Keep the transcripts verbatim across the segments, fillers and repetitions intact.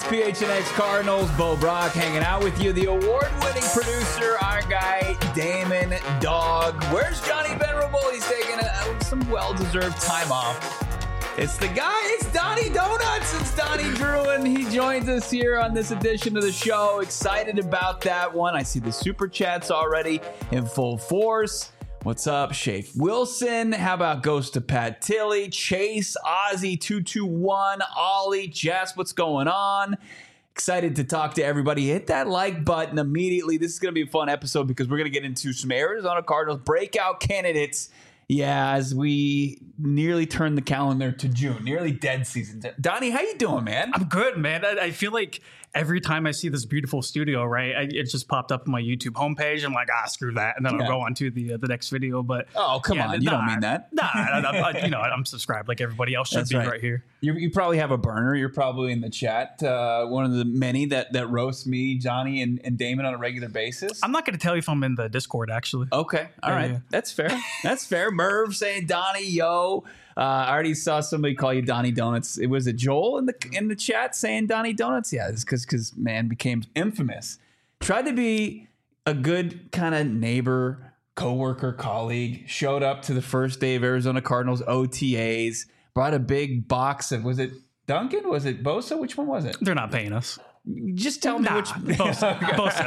P H N X Cardinals. Bo Brock hanging out with you. The award-winning producer, our guy, Damon Dog. Where's Johnny Venerable? He's taking a, some well-deserved time off. It's the guy. It's Donnie Donuts. It's Donnie Druin. He joins us here on this edition of the show. Excited about that one. I see the super chats already in full force. What's up, Shafe Wilson? How about Ghost to Pat Tilley? Chase, Ozzy two two one, Ollie, Jess, what's going on? Excited to talk to everybody. Hit that like button immediately. This is going to be a fun episode because we're going to get into some Arizona Cardinals breakout candidates. Yeah, as we nearly turn the calendar to June, nearly dead season. Donnie, how you doing, man? I'm good, man. I, I feel like every time I see this beautiful studio, right, I, it just popped up on my YouTube homepage. I'm like, ah, screw that, and then yeah. I'll go on to the uh, the next video. But oh, come yeah, on, you nah, don't mean that. Nah, I, I, I, you know, I'm subscribed like everybody else should That's be right. right here. You, you probably have a burner. You're probably in the chat. Uh, one of the many that that roast me, Johnny, and, and Damon on a regular basis. I'm not going to tell you if I'm in the Discord, actually. Okay, all yeah, right, yeah. That's fair. That's fair. Merv saying Donnie, yo. Uh, I already saw somebody call you Donnie Donuts. It was a Joel in the in the chat saying Donnie Donuts. Yeah, it's because because man became infamous. Tried to be a good kind of neighbor, coworker, colleague. Showed up to the first day of Arizona Cardinals O T As. Brought a big box of, was it Duncan? Was it Bosa? Which one was it? They're not paying us. Just tell me nah, which. Bosa.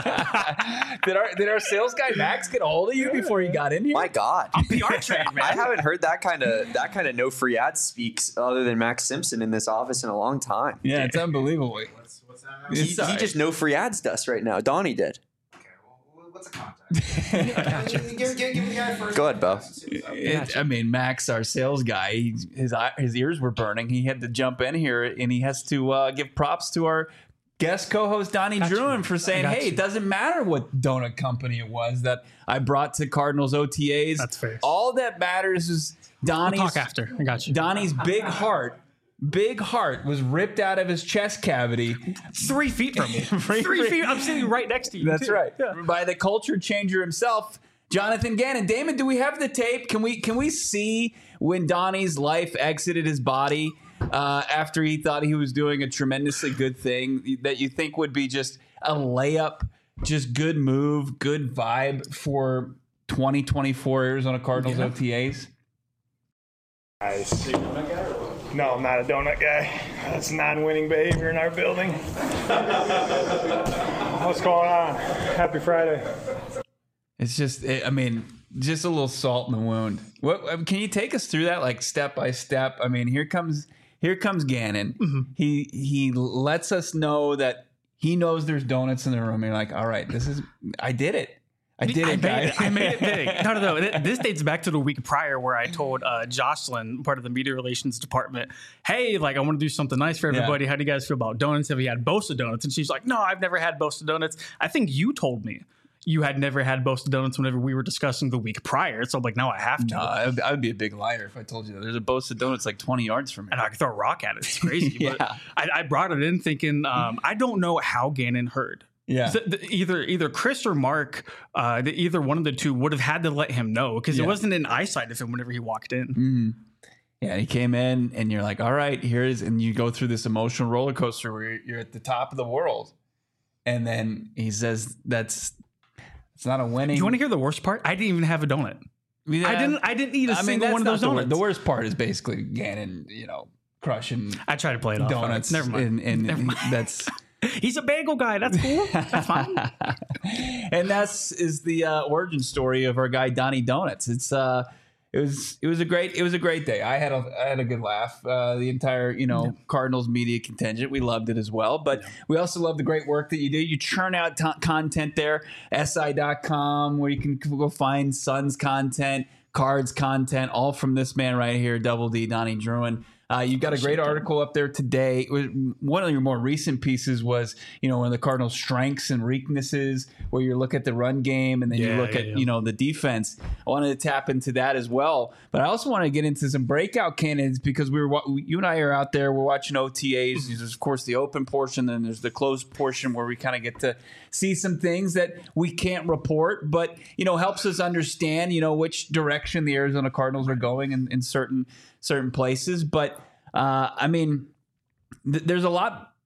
Bosa. did our did our sales guy Max get a hold of you before you got in here? My God, I'm P R trained, man. I haven't heard that kind of that kind of no free ad speaks other than Max Simpson in this office in a long time. Yeah, it's unbelievable. What's, what's that? He, he just no free ads to us right now. Donnie did. Okay, well, what's a contact? give, give, give, give the guy first. Go ahead, Bo. It, I mean, Max, our sales guy, he, his his ears were burning. He had to jump in here, and he has to uh, give props to our guest co-host Donnie Druin for saying, "Hey, you. It doesn't matter what donut company it was that I brought to Cardinals O T As. That's fair. All that matters is Donnie's we'll talk after. I got you. Donnie's big heart." Big heart was ripped out of his chest cavity. Three feet from me. Three, Three feet. I'm sitting right next to you. That's too. right. Yeah. By the culture changer himself, Jonathan Gannon. Damon, do we have the tape? Can we can we see when Donnie's life exited his body uh, after he thought he was doing a tremendously good thing that you think would be just a layup, just good move, good vibe for twenty twenty-four Arizona Cardinals yeah. O T As? Nice. No, I'm not a donut guy. That's non-winning behavior in our building. What's going on? Happy Friday. It's just, I mean, just a little salt in the wound. What can you take us through that, like step by step? I mean, here comes here comes Gannon. Mm-hmm. He he lets us know that he knows there's donuts in the room. And you're like, all right, this is, I did it. I did I it, made guys. it. I made it big. No, no, no. This dates back to the week prior where I told uh, Jocelyn, part of the media relations department, hey, like, I want to do something nice for everybody. Yeah. How do you guys feel about donuts? Have you had Bosa donuts? And she's like, no, I've never had Bosa donuts. I think you told me you had never had Bosa donuts whenever we were discussing the week prior. So I'm like, no, I have to. No, I would, I would be a big liar if I told you that. There's a Bosa donuts like twenty yards from me. And I could throw a rock at it. It's crazy. yeah. But I, I brought it in thinking, um, I don't know how Gannon heard. Yeah. The, the, either either Chris or Mark, uh, the, either one of the two would have had to let him know because yeah. it wasn't in eyesight of him whenever he walked in. Mm-hmm. Yeah, he came in and you're like, all right, here is, and you go through this emotional roller coaster where you're, you're at the top of the world. And then he says, that's, it's not a winning. You want to hear the worst part? I didn't even have a donut. Yeah. I didn't, I didn't eat a I single mean, one of those donuts. The, the worst part is basically Gannon, you know, crushing. I try to play it off. Donuts. Never mind. And, and Never mind. that's. He's a bagel guy. That's cool. That's fine. And that's is the uh, origin story of our guy Donnie Donuts. It's uh, it was it was a great it was a great day. I had a I had a good laugh. Uh, the entire you know yeah. Cardinals media contingent, we loved it as well. But yeah. we also love the great work that you do. You churn out t- content there, S I dot com, where you can go find Suns content, Cards content, all from this man right here, Double D, Donnie Druin. Uh, you've got a great article up there today. It was, one of your more recent pieces was, you know, one of the Cardinals' strengths and weaknesses, where you look at the run game and then yeah, you look yeah, at, yeah. you know, the defense. I wanted to tap into that as well. But I also want to get into some breakout candidates because we were, you and I are out there. We're watching O T As. There's, of course, the open portion. Then there's the closed portion where we kind of get to see some things that we can't report, but, you know, helps us understand, you know, which direction the Arizona Cardinals are going in, in certain certain places. But, uh, I mean, th- there's a lot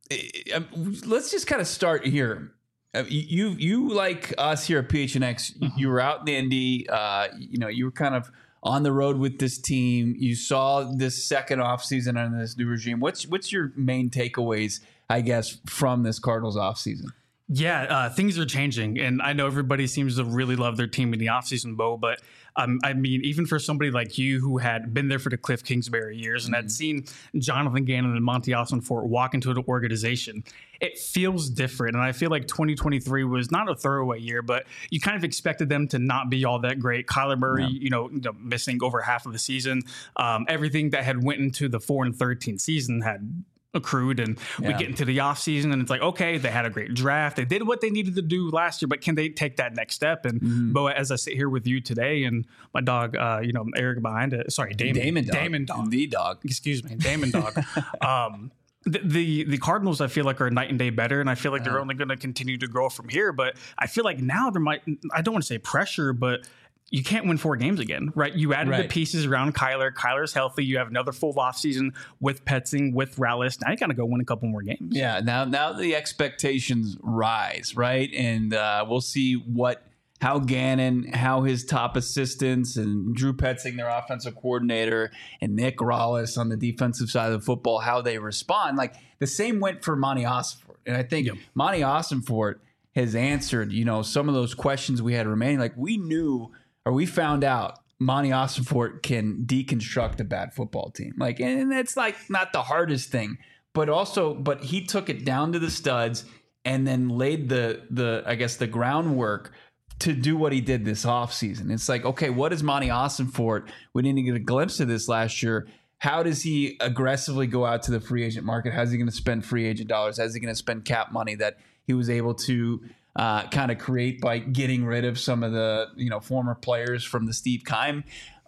let's just kind of start here. You, you like us here at P H N X, you were out in the Indy, uh, you know, you were kind of on the road with this team. You saw this second offseason under this new regime. What's what's your main takeaways, I guess, from this Cardinals offseason? Yeah, uh, things are changing, and I know everybody seems to really love their team in the offseason, Bo, but um, I mean, even for somebody like you who had been there for the Cliff Kingsbury years and mm-hmm. had seen Jonathan Gannon and Monty Ossenfort walk into the organization, it feels different. And I feel like twenty twenty-three was not a throwaway year, but you kind of expected them to not be all that great. Kyler Murray, yeah. you, know, you know, missing over half of the season. Um, everything that had went into the four and thirteen season had accrued, and yeah. we get into the offseason and it's like, okay, they had a great draft. They did what they needed to do last year, but can they take that next step? And mm-hmm. Bo, as I sit here with you today and my dog, uh, you know, Eric behind it, sorry, Damon, Damon dog. Damon dog. The dog. Excuse me, Damon dog. um, the, the the Cardinals, I feel like, are night and day better, and I feel like they're only going to continue to grow from here. But I feel like now there might, I don't want to say pressure, but you can't win four games again, right? You added right. the pieces around Kyler. Kyler's healthy. You have another full offseason with Petzing, with Rallis. Now you got to go win a couple more games. Yeah, now now the expectations rise, right? And uh, we'll see what how Gannon, how his top assistants, and Drew Petzing, their offensive coordinator, and Nick Rallis on the defensive side of the football, how they respond. Like the same went for Monty Ossenfort. And I think yep. Monty Ossenfort has answered, you know, some of those questions we had remaining. Like we knew or we found out Monty Ossenfort can deconstruct a bad football team. Like, and that's like not the hardest thing, but also, but he took it down to the studs and then laid the, the, I guess the groundwork to do what he did this offseason. It's like, okay, what is Monty Ossenfort? We didn't get a glimpse of this last year. How does he aggressively go out to the free agent market? How's he going to spend free agent dollars? How's he going to spend cap money that he was able to uh, kind of create by getting rid of some of the, you know, former players from the Steve Keim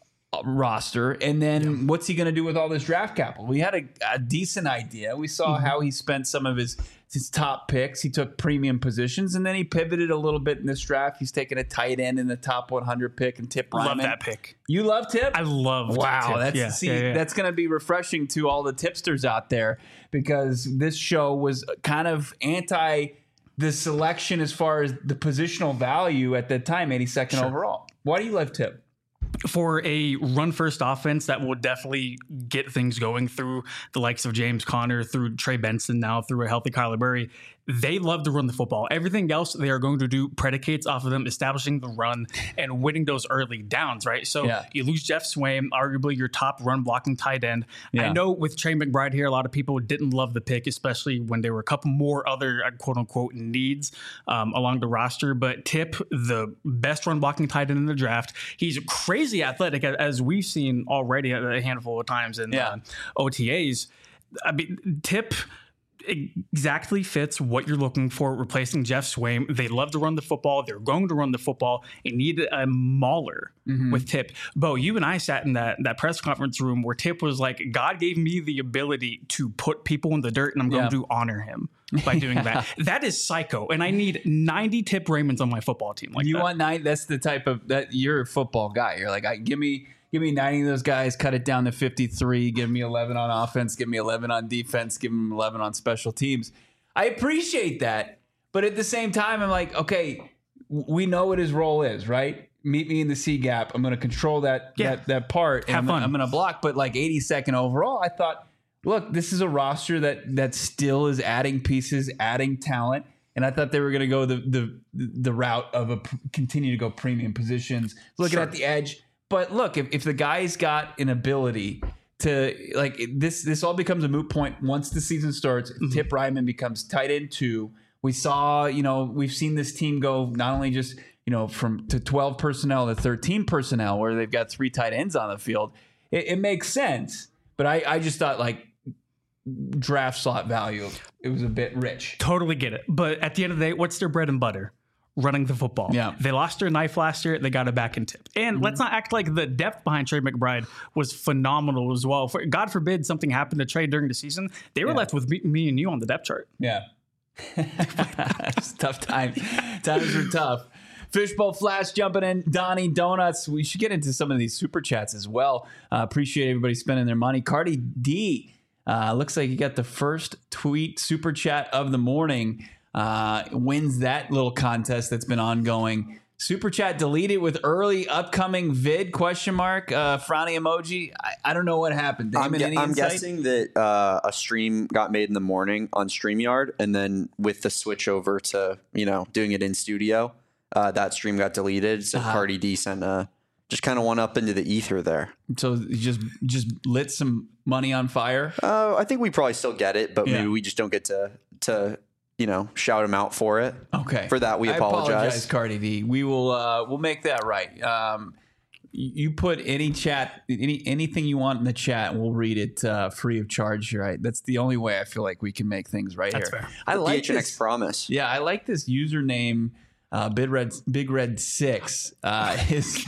roster? And then yeah. what's he going to do with all this draft capital? We had a, a decent idea. We saw mm-hmm. how he spent some of his his top picks. He took premium positions, and then he pivoted a little bit in this draft. He's taken a tight end in the top one hundred pick, and Tip Ryman. Love that pick. You love Tip? I love wow, Tip. that's yeah, see, yeah, yeah. that's going to be refreshing to all the tipsters out there, because this show was kind of anti the selection as far as the positional value at that time, eighty-second sure. overall. Why do you love Tip? For a run-first offense that will definitely get things going through the likes of James Conner, through Trey Benson, now through a healthy Kyler Murray. They love to run the football. Everything else they are going to do predicates off of them establishing the run and winning those early downs, right? So yeah. you lose Jeff Swaim, arguably your top run-blocking tight end. Yeah. I know with Trey McBride here, a lot of people didn't love the pick, especially when there were a couple more other quote-unquote needs um, along the roster. But Tip, the best run-blocking tight end in the draft, he's crazy athletic, as we've seen already a handful of times in yeah. uh, O T As. I mean, Tip exactly fits what you're looking for, replacing Jeff Swaim. They love to run the football. They're going to run the football. They need a mauler mm-hmm. with Tip. Bo, you and I sat in that, that press conference room where Tip was like, God gave me the ability to put people in the dirt, and I'm going yeah. to honor him by doing that. That is psycho. And I need ninety Tip Raymonds on my football team. Like you that. want nine? That's the type of that you're a football guy. You're like, I give me Give me ninety of those guys, cut it down to fifty-three, give me eleven on offense, give me eleven on defense, give them eleven on special teams. I appreciate that. But at the same time, I'm like, okay, we know what his role is, right? Meet me in the C gap. I'm going to control that, yeah. that that part. Have and fun. I'm going to block. But like eighty-second overall, I thought, look, this is a roster that that still is adding pieces, adding talent. And I thought they were going to go the the the route of a continue to go premium positions, looking sure. at the edge. But look, if, if the guy's got an ability to, like, this this all becomes a moot point once the season starts. Mm-hmm. Tip Ryman becomes tight end two. We saw, you know, we've seen this team go not only just, you know, from to twelve personnel to thirteen personnel, where they've got three tight ends on the field. It, it makes sense. But I, I just thought, like, draft slot value, it was a bit rich. Totally get it. But at the end of the day, what's their bread and butter? Running the football. Yeah. They lost their knife last year. They got it back in Tip. And mm-hmm. let's not act like the depth behind Trey McBride was phenomenal as well. For, God forbid something happened to Trey during the season. They were yeah. left with me, me and you on the depth chart. Yeah. It's tough time. Times are tough. Fishbowl Flash jumping in. Donnie Donuts. We should get into some of these super chats as well. Uh, appreciate everybody spending their money. Cardi D. Uh, looks like you got the first tweet super chat of the morning. Uh, wins that little contest that's been ongoing. Super chat deleted with early upcoming vid question mark uh, frowny emoji. I, I don't know what happened. Damon, I'm, gu- any I'm insight? guessing that uh, a stream got made in the morning on StreamYard, and then with the switch over to you know doing it in studio, uh, that stream got deleted. So Uh-huh. Cardi D sent a just kind of went up into the ether there. So you just just lit some money on fire. Uh, I think we probably still get it, but Yeah. maybe we just don't get to to you know shout him out for it. Okay. For that, we I apologize. Cardi D. We will uh, we'll make that right. Um, you put any chat, any anything you want in the chat, and we'll read it uh, free of charge. Right? That's the only way I feel like we can make things right That's here. fair. I like D H N X this. promise. Yeah, I like this username. Uh, Big Red Big Red Six. Uh, his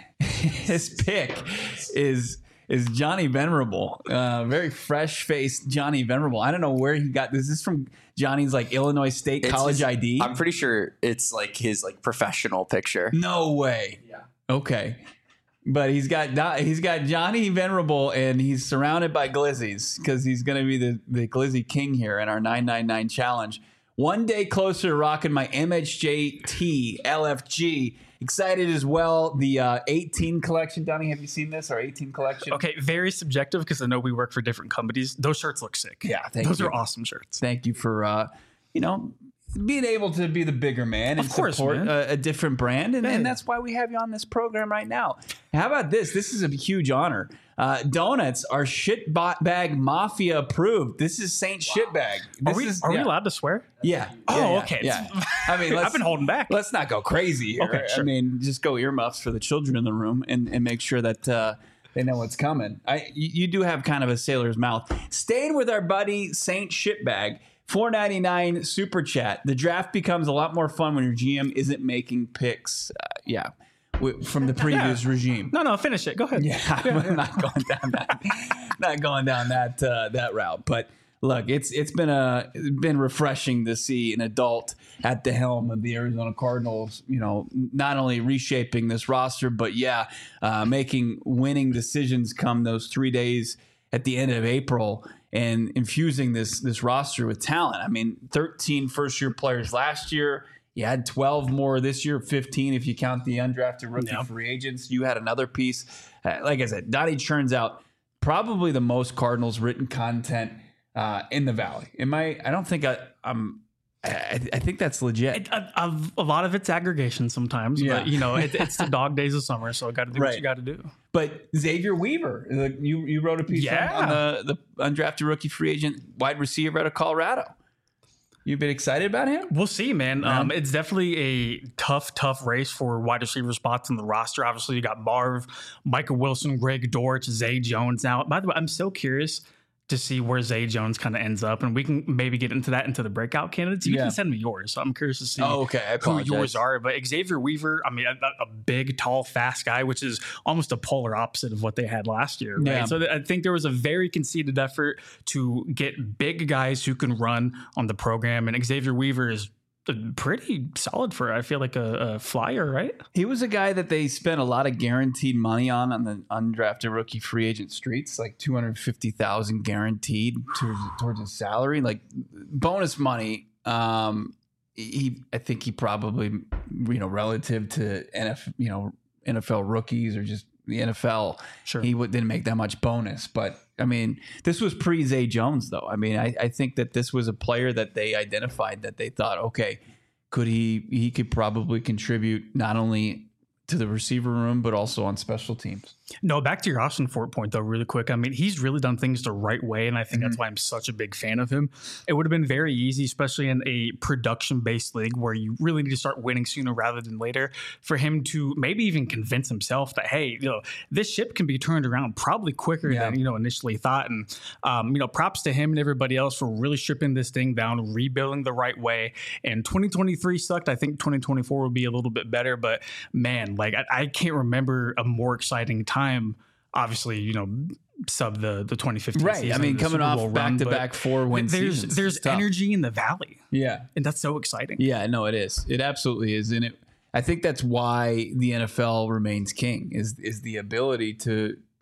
his pick is. Is Johnny Venerable, uh, very fresh faced Johnny Venerable. I don't know where he got this. Is this from Johnny's like Illinois State It's college his- I D? I'm pretty sure it's like his like professional picture. No way. Yeah. Okay. But he's got he's got Johnny Venerable, and he's surrounded by glizzies because he's going to be the, the glizzy king here in our nine nine nine challenge. One day closer to rocking my M H J T L F G. Excited as well. The uh, eighteen collection. Donnie, have you seen this? Our eighteen collection. Okay, very subjective because I know we work for different companies. Those shirts look sick. Yeah, thank Those you. are awesome shirts. Thank you for uh, you know being able to be the bigger man and Of course, support man. a, a different brand, and, Yeah. and that's why we have you on this program right now. How about this? This is a huge honor. Uh, donuts are shitbag mafia approved. This is Saint Shitbag. Are This we is, are yeah. we allowed to swear? Yeah. Oh, Yeah, yeah, okay. Yeah. I mean, let's, I've been holding back. Let's not go crazy here. Okay, I sure. mean, just go earmuffs for the children in the room and, and make sure that uh, they know what's coming. I you, you do have kind of a sailor's mouth. Staying with our buddy Saint Shitbag, four ninety-nine super chat. The draft becomes a lot more fun when your G M isn't making picks. Uh, yeah. w- From the previous Yeah. regime. No, no, finish it. Go ahead. Yeah, I'm not going down that, not going down that uh, that route. But look, it's it's been a it's been refreshing to see an adult at the helm of the Arizona Cardinals. You know, not only reshaping this roster, but yeah, uh, making winning decisions come those three days at the end of April and infusing this this roster with talent. I mean, thirteen first year players last year. You had twelve more this year, fifteen if you count the undrafted rookie Yeah. free agents. You had another piece. Uh, like I said, Donnie churns out probably the most Cardinals written content uh, in the Valley. Am I? I don't think I, I'm. I, I think that's legit. It, a, a, a lot of it's aggregation sometimes, Yeah. but you know, it, it's the dog days of summer, so got to do Right. what you got to do. But Xavier Weaver, like, you you wrote a piece Yeah. on, on the the undrafted rookie free agent wide receiver out of Colorado. You've been excited about him? We'll see, man. Yeah. Um, it's definitely a tough, tough race for wide receiver spots in the roster. Obviously, you got Marv, Michael Wilson, Greg Dortch, Zay Jones. Now, by the way, I'm so curious to see where Zay Jones kind of ends up, and we can maybe get into that into the breakout candidates. You Yeah. can send me yours, so I'm curious to see Oh, okay. I who apologize. yours are. But Xavier Weaver, I mean, a, a big, tall, fast guy, which is almost a polar opposite of what they had last year. Right? Yeah. So th- I think there was a very conceited effort to get big guys who can run on the program, and Xavier Weaver is pretty solid for, I feel like, a, a flyer, right? He was a guy that they spent a lot of guaranteed money on on the undrafted rookie free agent streets, like two hundred fifty thousand guaranteed towards, towards his salary, like bonus money. Um, he, I think he probably, you know, relative to N F, you know, N F L rookies or just the N F L, Sure. he w- didn't make that much bonus. But I mean, this was pre Zay Jones, though. I mean, I, I think that this was a player that they identified that they thought, okay, could he he could probably contribute not only to the receiver room but also on special teams. No, back to your Austin Fort point, though, really quick. I mean, he's really done things the right way, and I think that's why I'm such a big fan of him. It would have been very easy, especially in a production-based league where you really need to start winning sooner rather than later, for him to maybe even convince himself that, hey, you know, this ship can be turned around probably quicker Yeah. than, you know, initially thought. And, um, you know, props to him and everybody else for really stripping this thing down, rebuilding the right way. And twenty twenty-three sucked. I think twenty twenty-four will be a little bit better, but man, like, I, I can't remember a more exciting time. Time, obviously, you know, sub the the twenty fifteen Right. season, I mean, the coming Super Bowl off run, back to but back four win there's seasons. there's It's tough. energy in the valley, Yeah. and that's so exciting. Yeah, no, it is. It absolutely is. And it I think that's why the N F L remains king is is the ability to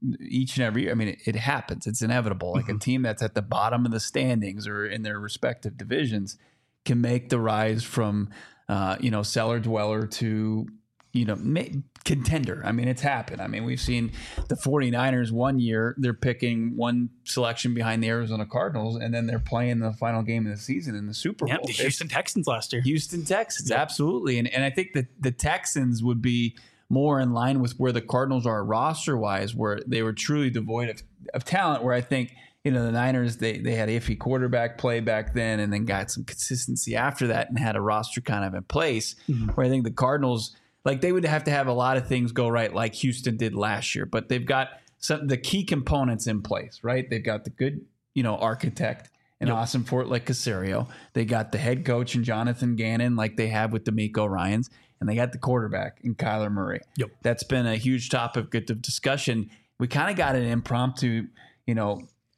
each and every year. I mean, it, it happens. It's inevitable. Like mm-hmm. a team that's at the bottom of the standings or in their respective divisions can make the rise from, uh, you know, cellar dweller to, you know, ma- contender. I mean, it's happened. I mean, we've seen the 49ers one year, they're picking one selection behind the Arizona Cardinals, and then they're playing the final game of the season in the Super Bowl. Yep, the Houston Texans last year. Houston Texans, yep. absolutely. And and I think that the Texans would be more in line with where the Cardinals are roster-wise, where they were truly devoid of, of talent, where I think, you know, the Niners, they they had iffy quarterback play back then and then got some consistency after that and had a roster kind of in place, mm-hmm. where I think the Cardinals, like they would have to have a lot of things go right like Houston did last year, but they've got some the key components in place, right? They've got the good, you know, architect and yep. Awesome Fort like Caserio. They got the head coach and Jonathan Gannon like they have with DeMeco Ryans. And they got the quarterback in Kyler Murray. Yep. That's been a huge topic of discussion. We kind of got an impromptu, you know,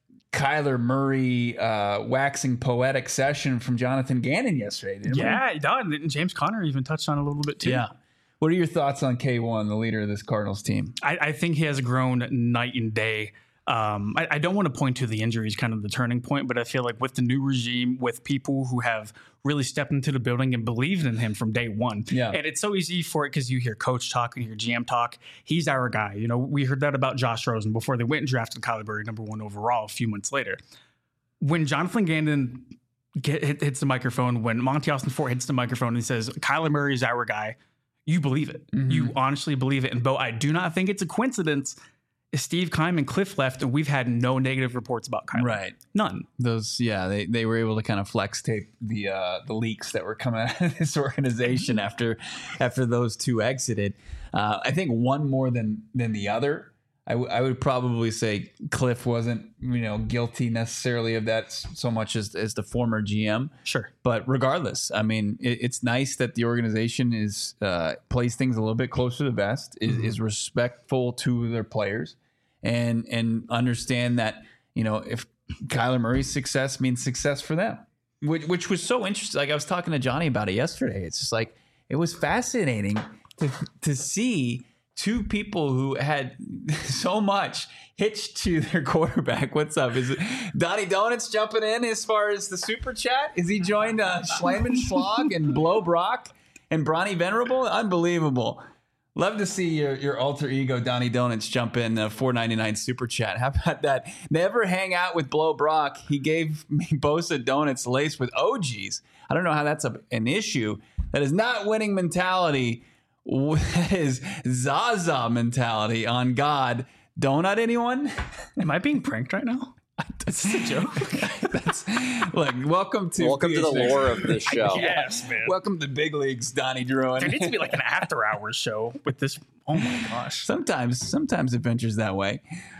Kyler Murray uh, waxing poetic session from Jonathan Gannon yesterday. Didn't yeah, we? he did. And James Conner even touched on it a little bit too. Yeah. What are your thoughts on K one, the leader of this Cardinals team? I, I think he has grown night and day. Um, I, I don't want to point to the injuries, kind of the turning point, but I feel like with the new regime, with people who have really stepped into the building and believed in him from day one. Yeah. And it's so easy for it because you hear coach talk and you hear G M talk. He's our guy. You know, we heard that about Josh Rosen before they went and drafted Kyler Murray number one overall a few months later. When Jonathan Gannon get, hit, hits the microphone, when Monty Austin Fort hits the microphone and he says, Kyler Murray is our guy, you believe it. Mm-hmm. You honestly believe it. And Bo, I do not think it's a coincidence Steve Keim and Cliff left, and we've had no negative reports about Kyler. Right. None. Those, yeah, they, they were able to kind of flex tape the uh, the leaks that were coming out of this organization after after those two exited. Uh, I think one more than than the other. I, w- I would probably say Cliff wasn't, you know, guilty necessarily of that so much as as the former G M. Sure. But regardless, I mean, it, it's nice that the organization is uh, plays things a little bit closer to the vest, is, mm-hmm. is respectful to their players, and and understand that, you know, if Kyler Murray's success means success for them, which, which was so interesting. Like I was talking to Johnny about it yesterday. It's just like, it was fascinating to to see two people who had so much hitched to their quarterback. What's up? Is it Donnie Donuts jumping in as far as the super chat? Is he joined uh, Schleiman Schlag and Blow Brock and Bronny Venerable? Unbelievable. Love to see your, your alter ego, Donnie Donuts, jump in uh, four ninety-nine super chat. How about that? Never hang out with Blow Brock. He gave me Bosa donuts laced with O Gs. I don't know how that's a, an issue. That is not winning mentality. That is Zaza mentality on God. Donut anyone? Am I being pranked right now? This is a joke. That's, look, welcome to welcome to the lore of this show. Yes, man. Welcome to the big leagues, Donnie Druin. There needs to be like an after hours show with this. Oh my gosh. Sometimes, sometimes adventures that way.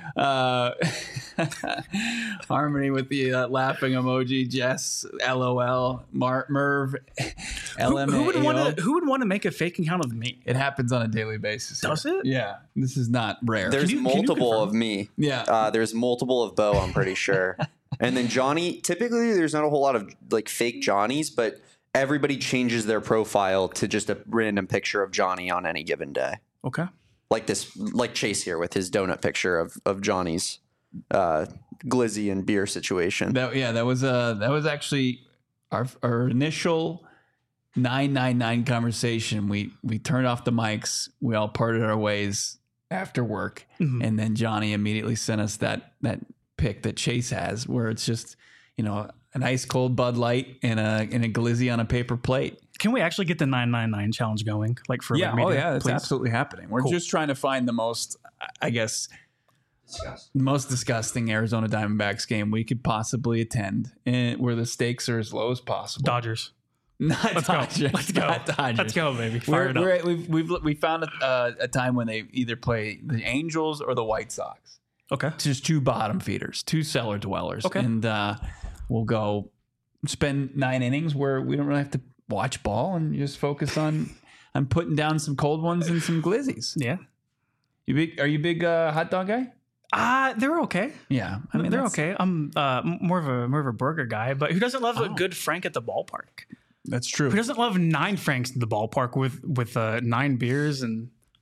Uh, Harmony with the uh, laughing emoji. Jess, LOL. Mar- Merv, L M A O. Who, who would want to? Who would want to make a fake account of me? It happens on a daily basis. Does here. it? Yeah. This is not rare. There's you, multiple of me. Yeah. Uh, there's multiple of Bo, I'm pretty sure. And then Johnny, typically there's not a whole lot of like fake Johnnies, but everybody changes their profile to just a random picture of Johnny on any given day. Okay. Like this, like Chase here with his donut picture of, of Johnny's uh, glizzy and beer situation. That, yeah, that was uh, that was actually our our initial nine nine nine conversation. We we turned off the mics. We all parted our ways after work, mm-hmm. and then Johnny immediately sent us that that pic that Chase has, where it's just, you know, an ice cold Bud Light and a and a glizzy on a paper plate. Can we actually get the nine nine nine challenge going? Like for yeah, media, oh yeah, it's please? absolutely happening. We're cool. just trying to find the most, I guess, Disgusting. most disgusting Arizona Diamondbacks game we could possibly attend, and where the stakes are as low as possible. Dodgers. Not Let's Dodgers. go. Let's go. Not Dodgers. Let's go, baby. Fire We're, it up. we're, we've we've we found a, uh, a time when they either play the Angels or the White Sox. Okay. It's just two bottom feeders, two cellar dwellers. Okay. And uh, we'll go spend nine innings where we don't really have to watch ball and just focus on on putting down some cold ones and some glizzies. Yeah. You big? Are you a big uh, hot dog guy? Uh, they're okay. Yeah, I mean, they're okay. I'm uh, more of a more of a burger guy, but who doesn't love oh. a good Frank at the ballpark? That's true. Who doesn't love nine Franks at the ballpark with with uh, nine beers and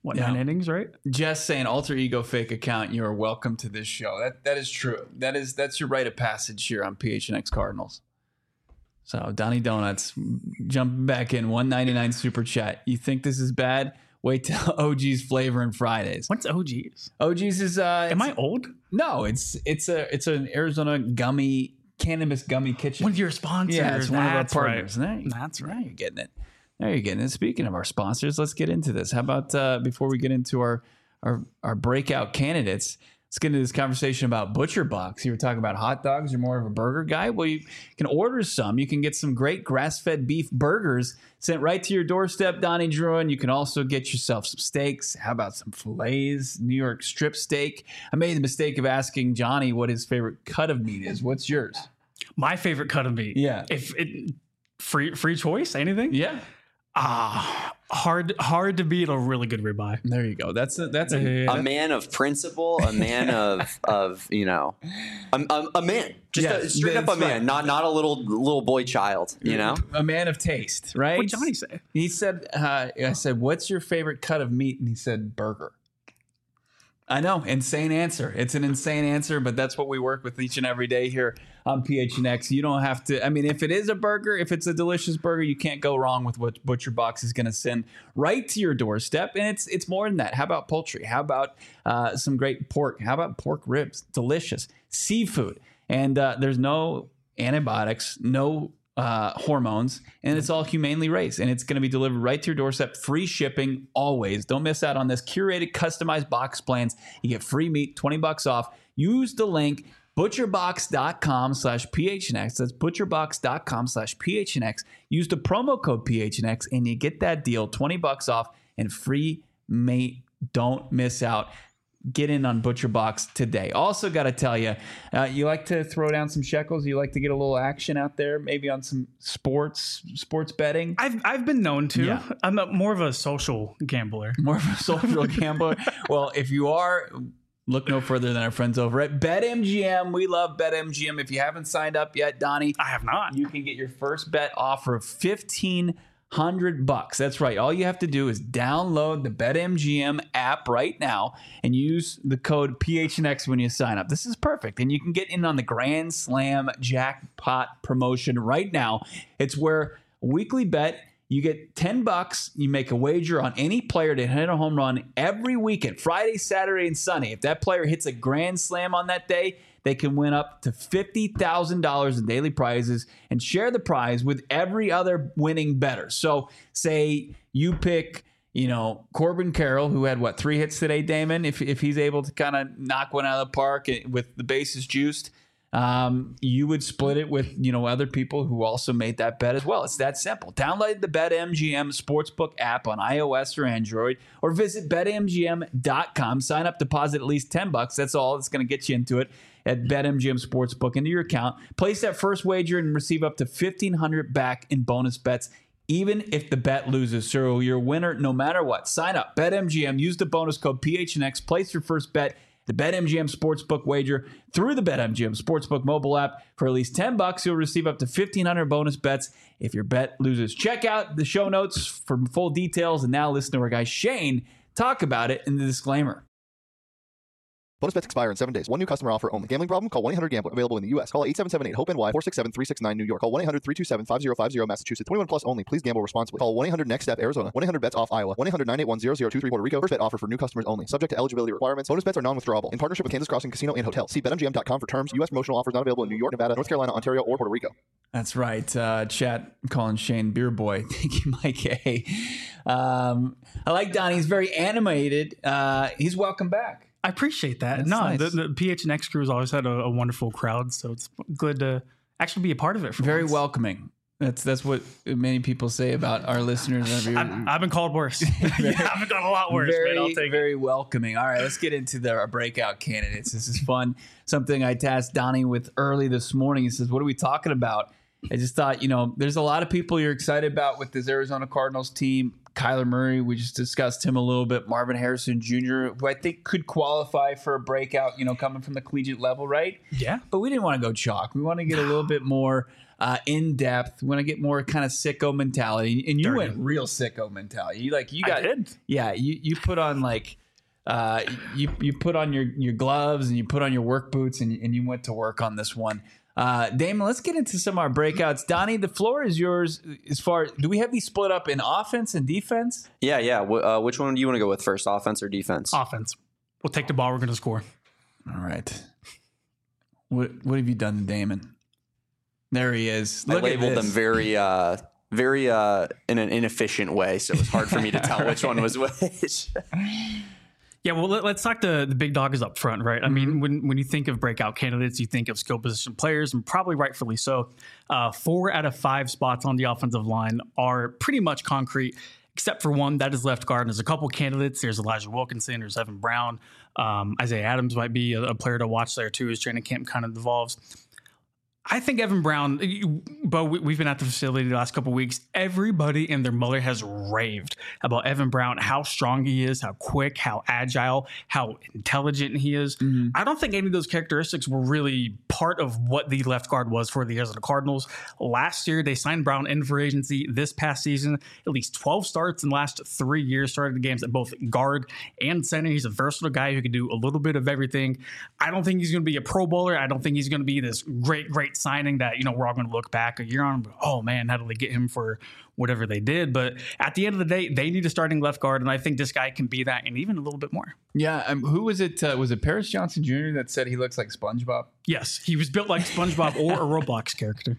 what, Yeah. nine innings, right? Jess saying alter ego fake account, you are welcome to this show. That that is true. That is that's your rite of passage here on P H N X Cardinals. So Donnie Donuts jumping back in one ninety-nine super chat. You think this is bad? Wait till O G's Flavor and Fridays. What's O G's? O G's is uh Am it's- I old? No, it's it's a it's an Arizona gummy cannabis gummy kitchen. One of your sponsors. Yeah, it's one of our That's right. partners. There you- That's Now right. you're getting it. There you're getting it. Speaking of our sponsors, let's get into this. How about uh, before we get into our, our our breakout candidates, let's get into this conversation about Butcher Box. You were talking about hot dogs. You're more of a burger guy. Well, you can order some. You can get some great grass-fed beef burgers sent right to your doorstep, Donnie Druin. You can also get yourself some steaks. How about some fillets, New York strip steak? I made the mistake of asking Johnny what his favorite cut of meat is. What's yours? My favorite cut of meat. Yeah. If it free free choice, anything? Yeah. Ah, hard hard to beat a really good ribeye. There you go. That's a, that's a, Yeah. A man of principle, a man of of you know, a, a, a man, just Yeah, a, straight up that's a man, right. not not a little little boy child. You know, a man of taste, right? What'd Johnny say? He said, uh, I said, what's your favorite cut of meat? And he said, burger. I know, insane answer. It's an insane answer, but that's what we work with each and every day here on P H N X. You don't have to, I mean, if it is a burger, if it's a delicious burger, you can't go wrong with what Butcher Box is going to send right to your doorstep. And it's it's more than that. How about poultry? How about uh, some great pork? How about pork ribs? Delicious. Seafood. And uh, there's no antibiotics, no uh, hormones, and it's all humanely raised, and it's going to be delivered right to your doorstep. Free shipping always. Don't miss out on this. Curated, customized box plans. You get free meat, twenty bucks off. Use the link butcherbox.com slash PHNX. That's butcherbox.com slash PHNX. Use the promo code P H N X, and you get that deal, twenty bucks off and free meat. Don't miss out. Get in on Butcher Box today. Also, got to tell you, uh, you like to throw down some shekels. You like to get a little action out there, maybe on some sports, sports betting. I've I've been known to. Yeah. I'm a, more of a social gambler. More of a social gambler. Well, if you are, look no further than our friends over at BetMGM. We love BetMGM. If you haven't signed up yet, Donnie, I have not. you can get your first bet offer of fifteen hundred bucks. That's right. All you have to do is download the BetMGM app right now and use the code P H N X when you sign up. This is perfect. And you can get in on the Grand Slam jackpot promotion right now. It's where a weekly bet, you get ten bucks, you make a wager on any player to hit a home run every weekend, Friday, Saturday, and Sunday. If that player hits a grand slam on that day, they can win up to fifty thousand dollars in daily prizes and share the prize with every other winning bettor. So say you pick, you know, Corbin Carroll, who had, what, three hits today, Damon? If, if he's able to kind of knock one out of the park with the bases juiced, um, you would split it with, you know, other people who also made that bet as well. It's that simple. Download the BetMGM Sportsbook app on iOS or Android, or visit bet M G M dot com. Sign up, deposit at least ten bucks. That's all. It's going to get you into it at BetMGM Sportsbook into your account. Place that first wager and receive up to fifteen hundred dollars back in bonus bets, even if the bet loses. So you're a winner no matter what. Sign up, BetMGM. Use the bonus code P H N X. Place your first bet, the BetMGM Sportsbook wager, through the BetMGM Sportsbook mobile app. For at least ten bucks, you'll receive up to fifteen hundred bonus bets if your bet loses. Check out the show notes for full details. And now listen to our guy Shane talk about it in the disclaimer. Bonus bets expire in seven days. One new customer offer only. Gambling problem? Call one eight hundred gambler. Available in the U S. Call eight seven seven eight hope N Y four six seven three six nine New York. Call one eight hundred three two seven five zero five zero Massachusetts. twenty-one plus only. Please gamble responsibly. Call one eight hundred next step Arizona. one eight hundred bets off Iowa. one eight hundred nine eight one zero zero two three Puerto Rico. First bet offer for new customers only. Subject to eligibility requirements. Bonus bets are non-withdrawable. In partnership with Kansas Crossing Casino and Hotel. See bet M G M dot com for terms. U S promotional offers not available in New York, Nevada, North Carolina, Ontario, or Puerto Rico. That's right. Uh, chat, I'm calling Shane Beer Boy. Thank you, Mike A. Um, I like Donnie. He's very animated. Uh, he's welcome back. I appreciate that. That's no, nice. the, the P H N X crew has always had a, a wonderful crowd, so it's good to actually be a part of it. For Very once. welcoming. That's that's what many people say about our listeners. Every, I've, I've been called worse. yeah, I've been called a lot worse. very, man. I'll take very welcoming. All right, let's get into the, our breakout candidates. This is fun. Something I tasked Donnie with early this morning. He says, what are we talking about? I just thought, you know, there's a lot of people you're excited about with this Arizona Cardinals team. Kyler Murray, we just discussed him a little bit. Marvin Harrison Junior, who I think could qualify for a breakout, you know, coming from the collegiate level, right? Yeah. But we didn't want to go chalk. We want to get a little bit more uh, in depth. We want to get more kind of sicko mentality. And you Dirty. went real sicko mentality. You like you got I did. Yeah, you you put on like uh, you you put on your your gloves and you put on your work boots and and you went to work on this one. Uh, Damon, let's get into some of our breakouts. Donnie, the floor is yours. As far do we have these split up in offense and defense? Yeah, yeah. W- uh, which one do you want to go with first, offense or defense? Offense. We'll take the ball. We're going to score. All right. What what have you done to Damon? There he is. I Look at labeled this. them very, uh, very uh, in an inefficient way, so it was hard for me to tell which one was which. Yeah, well, let, let's talk the, the big dog is up front, right? I mean, when, when you think of breakout candidates, you think of skill position players, and probably rightfully so. Uh, four out of five spots on the offensive line are pretty much concrete, except for one, that is left guard. And there's a couple candidates. There's Elijah Wilkinson. There's Evan Brown. Um, Isaiah Adams might be a, a player to watch there, too, as training camp kind of devolves. I think Evan Brown, you, Bo, we, we've been at the facility the last couple of weeks. Everybody and their mother has raved about Evan Brown, how strong he is, how quick, how agile, how intelligent he is. Mm-hmm. I don't think any of those characteristics were really part of what the left guard was for the Arizona Cardinals. Last year, they signed Brown in for agency. This past season, at least twelve starts in the last three years, started the games at both guard and center. He's a versatile guy who can do a little bit of everything. I don't think he's going to be a Pro Bowler. I don't think he's going to be this great, great signing that, you know, we're all going to look back a year on. Oh man, how did they get him for whatever they did? But at the end of the day, they need a starting left guard, and I think this guy can be that, and even a little bit more. Yeah, um, who was it? Uh, was it Paris Johnson Junior that said he looks like SpongeBob? Yes, he was built like SpongeBob or a Roblox character.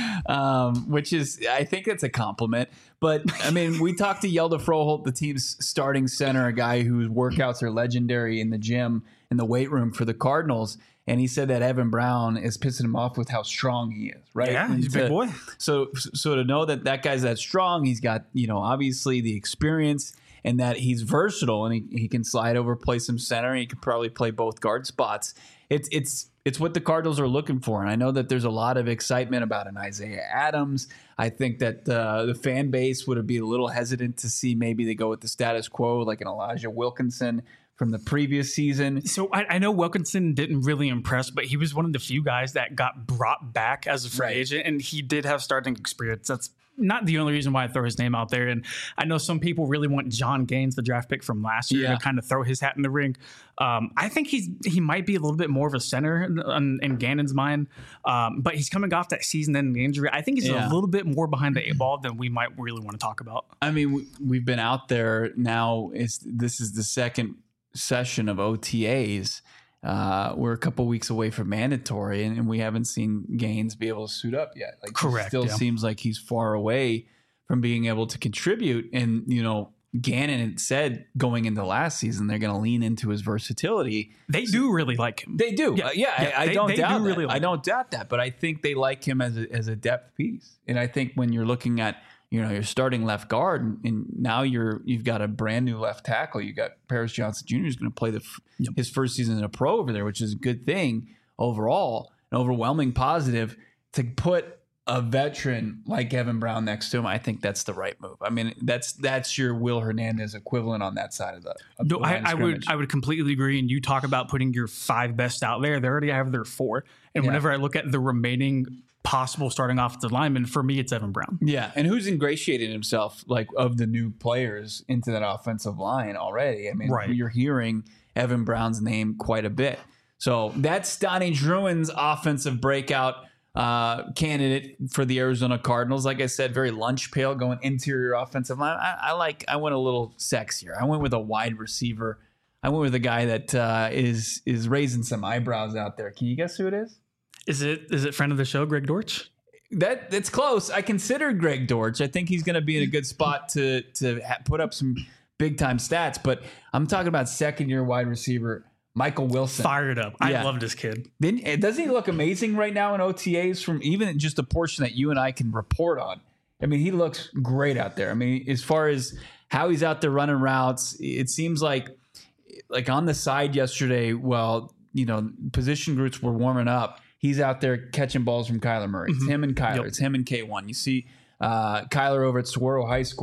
Um, which is, I think that's a compliment. But I mean, we talked to Yelda Froholt, the team's starting center, a guy whose workouts are legendary in the gym, in the weight room for the Cardinals. And he said that Evan Brown is pissing him off with how strong he is, right? Yeah, he's a big boy. So, so to know that that guy's that strong, he's got, you know, obviously the experience, and that he's versatile, and he, he can slide over, play some center, and he could probably play both guard spots. It's it's it's what the Cardinals are looking for, and I know that there's a lot of excitement about an Isaiah Adams. I think that uh, the fan base would be a little hesitant to see maybe they go with the status quo, like an Elijah Wilkinson from the previous season. So I, I know Wilkinson didn't really impress, but he was one of the few guys that got brought back as a free Right. agent, and he did have starting experience. That's not the only reason why I throw his name out there. And I know some people really want John Gaines, the draft pick from last year, Yeah. to kind of throw his hat in the ring. Um, I think he's he might be a little bit more of a center in, in Gannon's mind, um, but he's coming off that season-ending injury. I think he's Yeah. a little bit more behind the eight ball than we might really want to talk about. I mean, we, we've been out there now. Is this is the second session of O T As. Uh, we're a couple weeks away from mandatory, and, and we haven't seen Gaines be able to suit up yet. Like, Correct, It still yeah. seems like he's far away from being able to contribute. And, you know, Gannon had said going into last season, they're going to lean into his versatility. They do really like him. They do. Yeah, Uh, yeah, yeah, I, I they- don't they doubt do that. really like I don't doubt that. But I think they like him as a, as a depth piece. And I think when you're looking at, you know, you're starting left guard, and, and now you're you've got a brand new left tackle. You got Paris Johnson Junior is going to play the f- Yep. his first season in a pro over there, which is a good thing overall, an overwhelming positive. To put a veteran like Evan Brown next to him, I think that's the right move. I mean, that's that's your Will Hernandez equivalent on that side of the. Of No, the line I, of I would scrimmage. I would completely agree. And you talk about putting your five best out there. They already have their four. And Yeah. whenever I look at the remaining possible starting offensive linemen, for me, it's Evan Brown. Yeah, and who's ingratiated himself, like, of the new players into that offensive line already? I mean, Right. you're hearing Evan Brown's name quite a bit. So that's Donnie Druin's offensive breakout uh, candidate for the Arizona Cardinals. Like I said, very lunch pail, going interior offensive line. I, I like. I went a little sexier. I went with a wide receiver. I went with a guy that uh, is is raising some eyebrows out there. Can you guess who it is? Is it is it friend of the show, Greg Dortch? That that's close. I considered Greg Dortch. I think he's going to be in a good spot to to ha- put up some big time stats. But I'm talking about second year wide receiver Michael Wilson. Fired up. Yeah. I love this kid. Then doesn't he look amazing right now in O T As? From even just a portion that you and I can report on. I mean, he looks great out there. I mean, as far as how he's out there running routes, it seems like like on the side yesterday. Well, you know, position groups were warming up. He's out there catching balls from Kyler Murray. It's him and Kyler. Yep. It's him and K one. You see uh, Kyler over at Saguaro High School,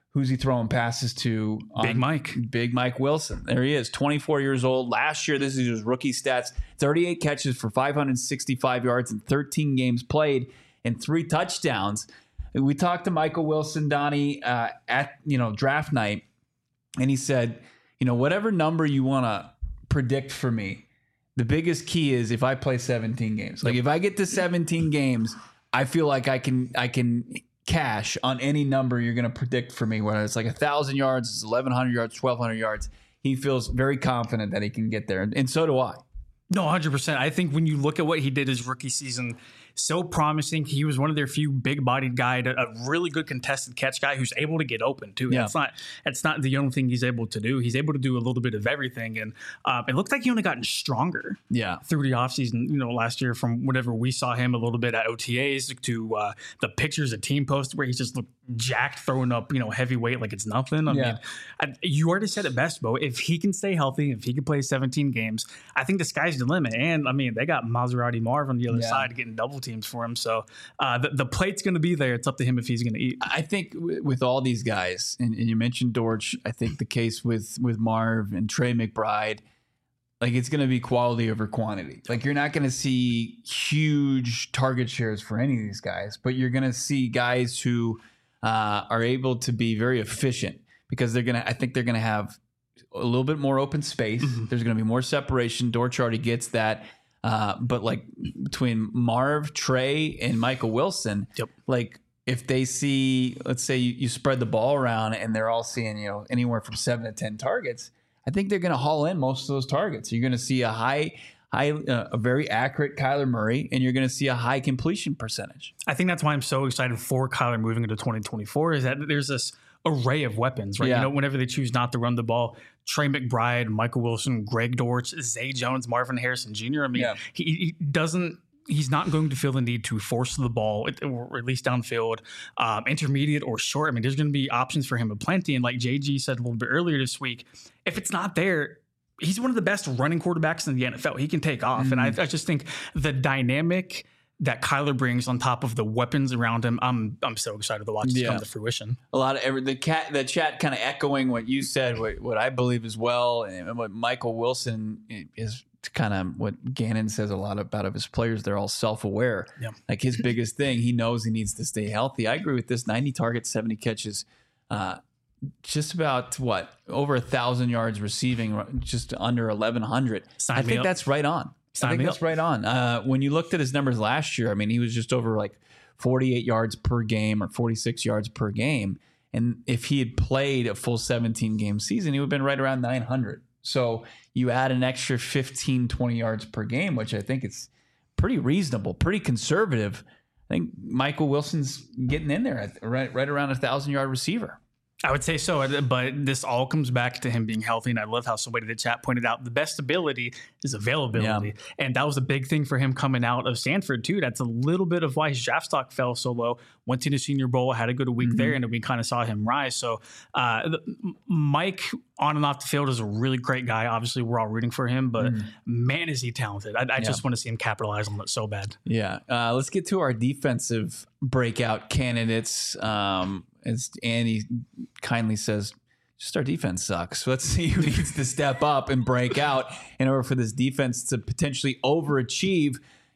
Who's he throwing passes to? Big Mike. Big Mike Wilson. There he is, twenty-four years old. Last year, this is his rookie stats. thirty-eight catches for five hundred sixty-five yards in thirteen games played and three touchdowns. We talked to Michael Wilson, Donnie, uh, at you know draft night, and he said, you know, whatever number you want to predict for me, the biggest key is if I play seventeen games. Like if I get to seventeen games, I feel like I can I can cash on any number you're going to predict for me, whether it's like one thousand yards, it's eleven hundred yards, twelve hundred yards. He feels very confident that he can get there, and, and so do I. No, one hundred percent. I think when you look at what he did his rookie season, so promising. He was one of their few big-bodied guy, a really good contested catch guy who's able to get open too. Yeah. That's not that's not the only thing he's able to do. He's able to do a little bit of everything, and um, it looked like he only gotten stronger. Yeah, through the offseason, you know, last year from whenever we saw him a little bit at O T As to uh, the pictures the team posted where he just looked jacked, throwing up, you know, heavy weight like it's nothing. I yeah. mean, I, you already said it best, Bo. If he can stay healthy, if he can play seventeen games, I think the sky's the limit. And I mean, they got Maserati Marv on the other yeah. side getting double teams for him. So uh, the, the plate's going to be there. It's up to him if he's going to eat. I think w- with all these guys, and, and you mentioned Dortch, I think the case with, with Marv and Trey McBride, like it's going to be quality over quantity. Like you're not going to see huge target shares for any of these guys, but you're going to see guys who uh, are able to be very efficient because they're going to, I think they're going to have a little bit more open space. Mm-hmm. There's going to be more separation. Dortch already gets that. Uh, but like between Marv, Trey, and Michael Wilson, yep. like if they see, let's say you, you spread the ball around and they're all seeing, you know, anywhere from seven to ten targets, I think they're going to haul in most of those targets. You're going to see a high, high, uh, a very accurate Kyler Murray, and you're going to see a high completion percentage. I think that's why I'm so excited for Kyler moving into twenty twenty-four is that there's this array of weapons, right? Yeah. You know, whenever they choose not to run the ball, Trey McBride, Michael Wilson, Greg Dortch, Zay Jones, Marvin Harrison Junior I mean, yeah. he, he doesn't, he's not going to feel the need to force the ball, or at least downfield, um, intermediate or short. I mean, there's going to be options for him aplenty. And like J G said a little bit earlier this week, if it's not there, he's one of the best running quarterbacks in the N F L. He can take off. Mm-hmm. And I, I just think the dynamic that Kyler brings on top of the weapons around him, I'm I'm so excited to watch this yeah. come to fruition. A lot of every, the cat the chat kind of echoing what you said, what, what I believe as well, and what Michael Wilson is kind of what Gannon says a lot about of his players. They're all self-aware. Yeah. Like his biggest thing, he knows he needs to stay healthy. I agree with this. ninety targets, seventy catches, uh, just about what over a thousand yards receiving, just under eleven hundred. I think up. that's right on. I think that's right on. Uh, when you looked at his numbers last year, I mean, he was just over like forty-eight yards per game or forty-six yards per game. And if he had played a full seventeen game season, he would have been right around nine hundred. So you add an extra fifteen, twenty yards per game, which I think is pretty reasonable, pretty conservative. I think Michael Wilson's getting in there at right, right around a thousand yard receiver. I would say so, but this all comes back to him being healthy. And I love how somebody in the chat pointed out the best ability is availability. Yeah. And that was a big thing for him coming out of Stanford, too. That's a little bit of why his draft stock fell so low. Went to the Senior Bowl, had a good week mm-hmm. there, and we kind of saw him rise. So uh, Mike, on and off the field, is a really great guy. Obviously, we're all rooting for him, but mm. man, is he talented. I, I yeah. just want to see him capitalize on it so bad. Yeah. Uh, let's get to our defensive breakout candidates. Um, as Andy kindly says, just our defense sucks. So let's see who needs to step up and break out in order for this defense to potentially overachieve.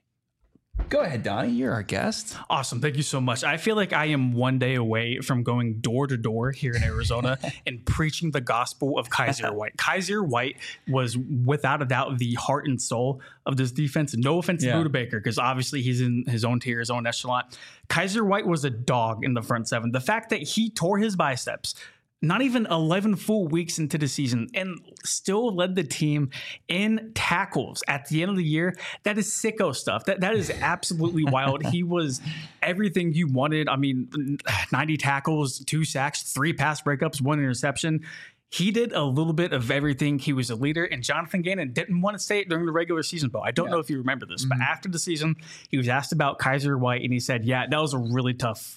Go ahead, Donnie. You're our guest. Awesome. Thank you so much. I feel like I am one day away from going door to door here in Arizona and preaching the gospel of Kyzir White. Kyzir White was without a doubt the heart and soul of this defense. No offense yeah. to Budda Baker, because obviously he's in his own tier, his own echelon. Kyzir White was a dog in the front seven. The fact that he tore his biceps not even eleven full weeks into the season and still led the team in tackles at the end of the year, that is sicko stuff. That That is absolutely wild. He was everything you wanted. I mean, ninety tackles, two sacks, three pass breakups, one interception. He did a little bit of everything. He was a leader, and Jonathan Gannon didn't want to say it during the regular season, but I don't yeah. know if you remember this, mm-hmm. but after the season, he was asked about Kyzir White, and he said, yeah, that was a really tough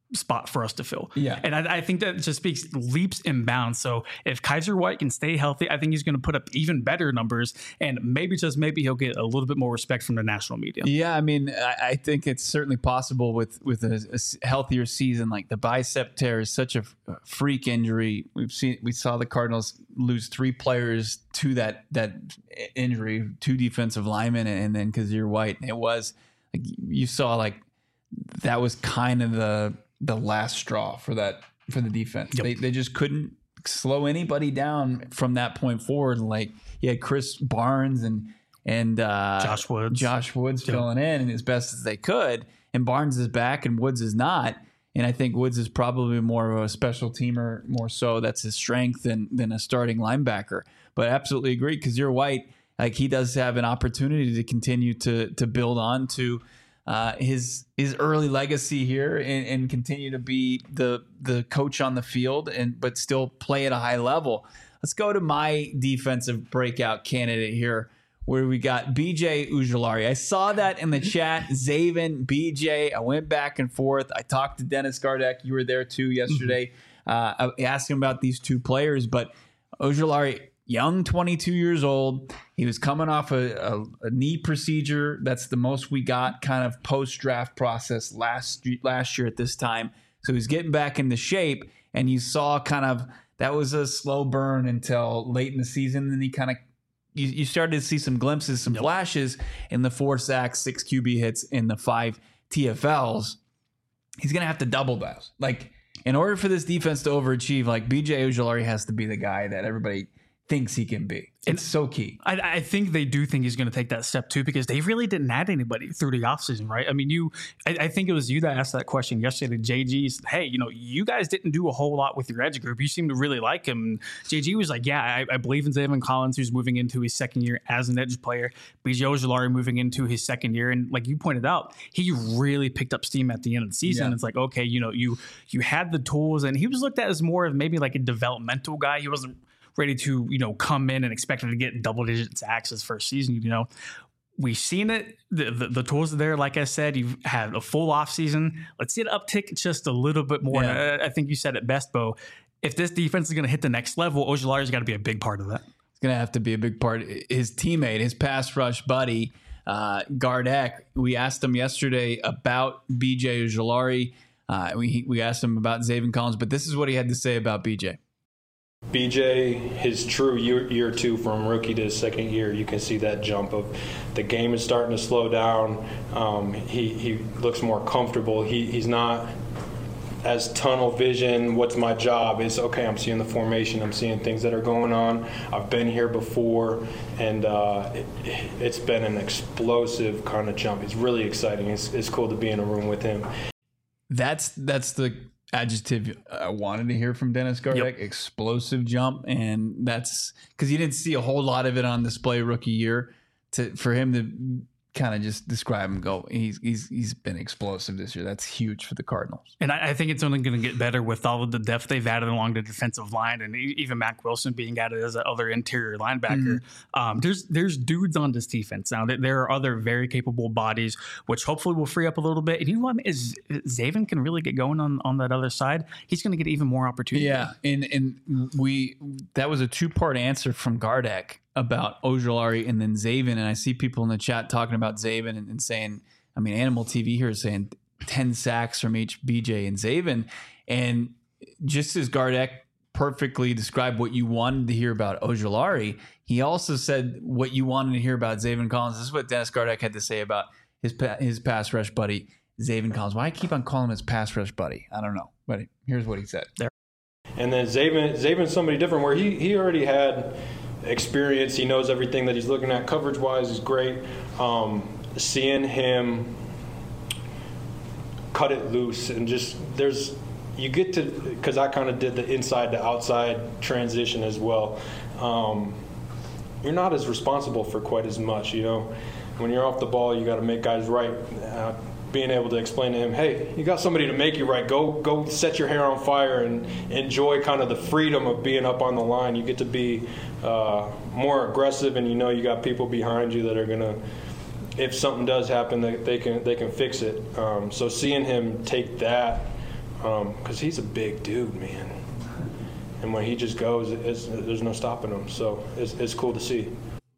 spot for us to fill. Yeah. And I, I think that just speaks leaps and bounds. So if Kaiser White can stay healthy, I think he's going to put up even better numbers, and maybe just maybe he'll get a little bit more respect from the national media. Yeah, I mean, I, I think it's certainly possible with with a, a healthier season. Like the bicep tear is such a freak injury. We've seen we saw the Cardinals lose three players to that that injury, two defensive linemen, and then Kaiser White. And it was like you saw like that was kind of the the last straw for that for the defense. Yep. They they just couldn't slow anybody down from that point forward. Like you had Chris Barnes and and uh, Josh Woods, Josh Woods yep. filling in as best as they could. And Barnes is back and Woods is not. And I think Woods is probably more of a special teamer, more so. That's his strength than than a starting linebacker. But I absolutely agree, because you're White, like he does have an opportunity to continue to to build on to Uh, his his early legacy here and, and continue to be the the coach on the field, and but still play at a high level. Let's go to my defensive breakout candidate here, where we got B J Ojulari. I saw that in the chat, Zaven, B J. I went back and forth. I talked to Dennis Gardeck. You were there too yesterday. Mm-hmm. uh, I asked him about these two players, but Ojulari, young, twenty-two years old. He was coming off a, a, a knee procedure. That's the most we got kind of post-draft process last last year at this time. So he's getting back into shape, and you saw kind of that was a slow burn until late in the season. Then he kind of you, you started to see some glimpses, some yep. flashes in the four sacks, six Q B hits, in the five T F Ls. He's going to have to double that. Like, in order for this defense to overachieve, like B J Ojulari has to be the guy that everybody thinks he can be. It's so key. I, I think they do think he's going to take that step too, because they really didn't add anybody through the offseason, right? I mean, you, I, I think it was you that asked that question yesterday to J G. Said, hey, you know, you guys didn't do a whole lot with your edge group. You seem to really like him. And J G was like, yeah, I, I believe in Zaven Collins, who's moving into his second year as an edge player. B J Ojulari moving into his second year. And like you pointed out, he really picked up steam at the end of the season. Yeah. It's like, okay, you know, you you had the tools, and he was looked at as more of maybe like a developmental guy. He wasn't ready to, you know, come in and expected to get double digit sacks his first season. You know, we've seen it. The, the, the tools are there. Like I said, you've had a full off season. Let's see it uptick just a little bit more. Yeah. I, I think you said it best, Bo. If this defense is going to hit the next level, Ojulari's got to be a big part of that. It's going to have to be a big part. His teammate, his pass rush buddy, uh, Gardeck, we asked him yesterday about B J Ojulari. Uh, we, we asked him about Zaven Collins, but this is what he had to say about B J. B J, his true year, year two from rookie to his second year, you can see that jump of the game is starting to slow down. Um, he, he looks more comfortable. He, he's not as tunnel vision, what's my job? It's okay, I'm seeing the formation, I'm seeing things that are going on. I've been here before, and uh, it, it's been an explosive kind of jump. It's really exciting. It's, it's cool to be in a room with him. That's that's the adjective I wanted to hear from Dennis Gardeck. Yep. Explosive jump, and that's because you didn't see a whole lot of it on display rookie year. To for him to kind of just describe him, go, he's he's he's been explosive this year. That's huge for the Cardinals. And I, I think it's only going to get better with all of the depth they've added along the defensive line, and even Mack Wilson being added as that other interior linebacker. Mm-hmm. Um, there's there's dudes on this defense now. There are other very capable bodies, which hopefully will free up a little bit. And you know what? Is Zaven can really get going on, on that other side. He's going to get even more opportunity. Yeah, and and we that was a two part answer from Gardeck about Ojulari and then Zaven, and I see people in the chat talking about Zaven and, and saying, I mean, Animal T V here is saying ten sacks from each B J and Zaven, and just as Gardeck perfectly described what you wanted to hear about Ojulari, he also said what you wanted to hear about Zaven Collins. This is what Dennis Gardeck had to say about his his pass rush buddy, Zaven Collins. Why I keep on calling him his pass rush buddy? I don't know, but here's what he said. There. And then Zaven, Zaven's somebody different, where he he already had experience. He knows everything that he's looking at. Coverage wise is great. Um, seeing him cut it loose and just there's you get to, because I kind of did the inside to outside transition as well. Um, you're not as responsible for quite as much, you know. When you're off the ball, you got to make guys right. Uh, being able to explain to him, hey, you got somebody to make you right. Go go set your hair on fire and enjoy kind of the freedom of being up on the line. You get to be uh, more aggressive, and you know you got people behind you that are going to, if something does happen, they, they can they can fix it. Um, so seeing him take that because he's a big dude, man. And when he just goes, it's, there's no stopping him. So it's, it's cool to see.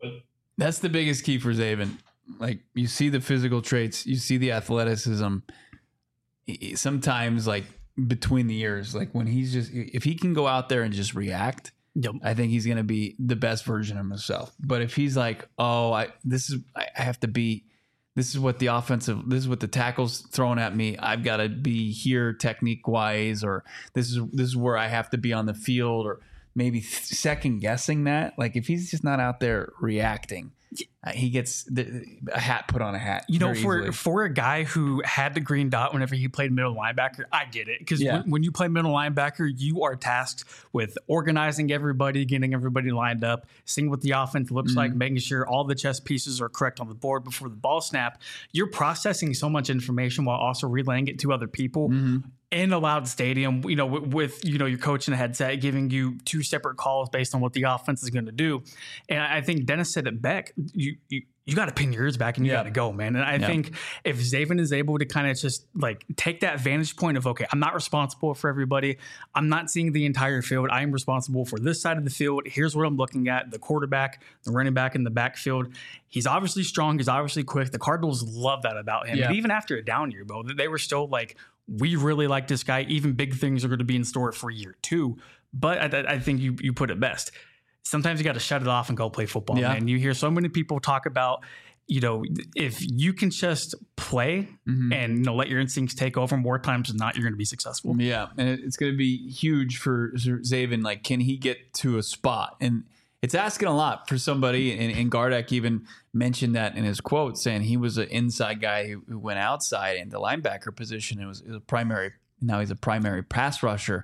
That's the biggest key for Zaven. Like, you see the physical traits, you see the athleticism. Sometimes, like, between the years, like when he's just, if he can go out there and just react, yep. I think he's going to be the best version of himself. But if he's like, oh, I this is, I have to be, this is what the offensive, this is what the tackle's throwing at me. I've got to be here technique wise, or this is this is where I have to be on the field, or maybe second guessing that. Like, if he's just not out there reacting, uh, he gets the, a hat put on a hat. You know, for easily. for a guy who had the green dot whenever he played middle linebacker, I get it. Because Yeah. when, when you play middle linebacker, you are tasked with organizing everybody, getting everybody lined up, seeing what the offense looks Mm-hmm. like, making sure all the chess pieces are correct on the board before the ball snap. You're processing so much information while also relaying it to other people. Mm-hmm. In a loud stadium, you know, with, with, you know, your coach in a headset giving you two separate calls based on what the offense is going to do. And I think Dennis said it back, you, you, you got to pin your ears back and you Yeah. got to go, man. And I Yeah. think if Zaven is able to kind of just like take that vantage point of, okay, I'm not responsible for everybody. I'm not seeing the entire field. I am responsible for this side of the field. Here's what I'm looking at: the quarterback, the running back in the backfield. He's obviously strong. He's obviously quick. The Cardinals love that about him. Yeah. And even after a down year, Bo, they were still like, we really like this guy. Even big things are going to be in store for year two. But I, I think you you put it best. Sometimes you got to shut it off and go play football, Yeah. man. You hear so many people talk about, you know, if you can just play Mm-hmm. and, you know, let your instincts take over, more times than not, you're going to be successful. Yeah, and it- it's going to be huge for Zaven. Like, can he get to a spot? And it's asking a lot for somebody. And, and Gardeck even mentioned that in his quote, saying he was an inside guy who, who went outside into linebacker position. It was, it was a primary. Now he's a primary pass rusher.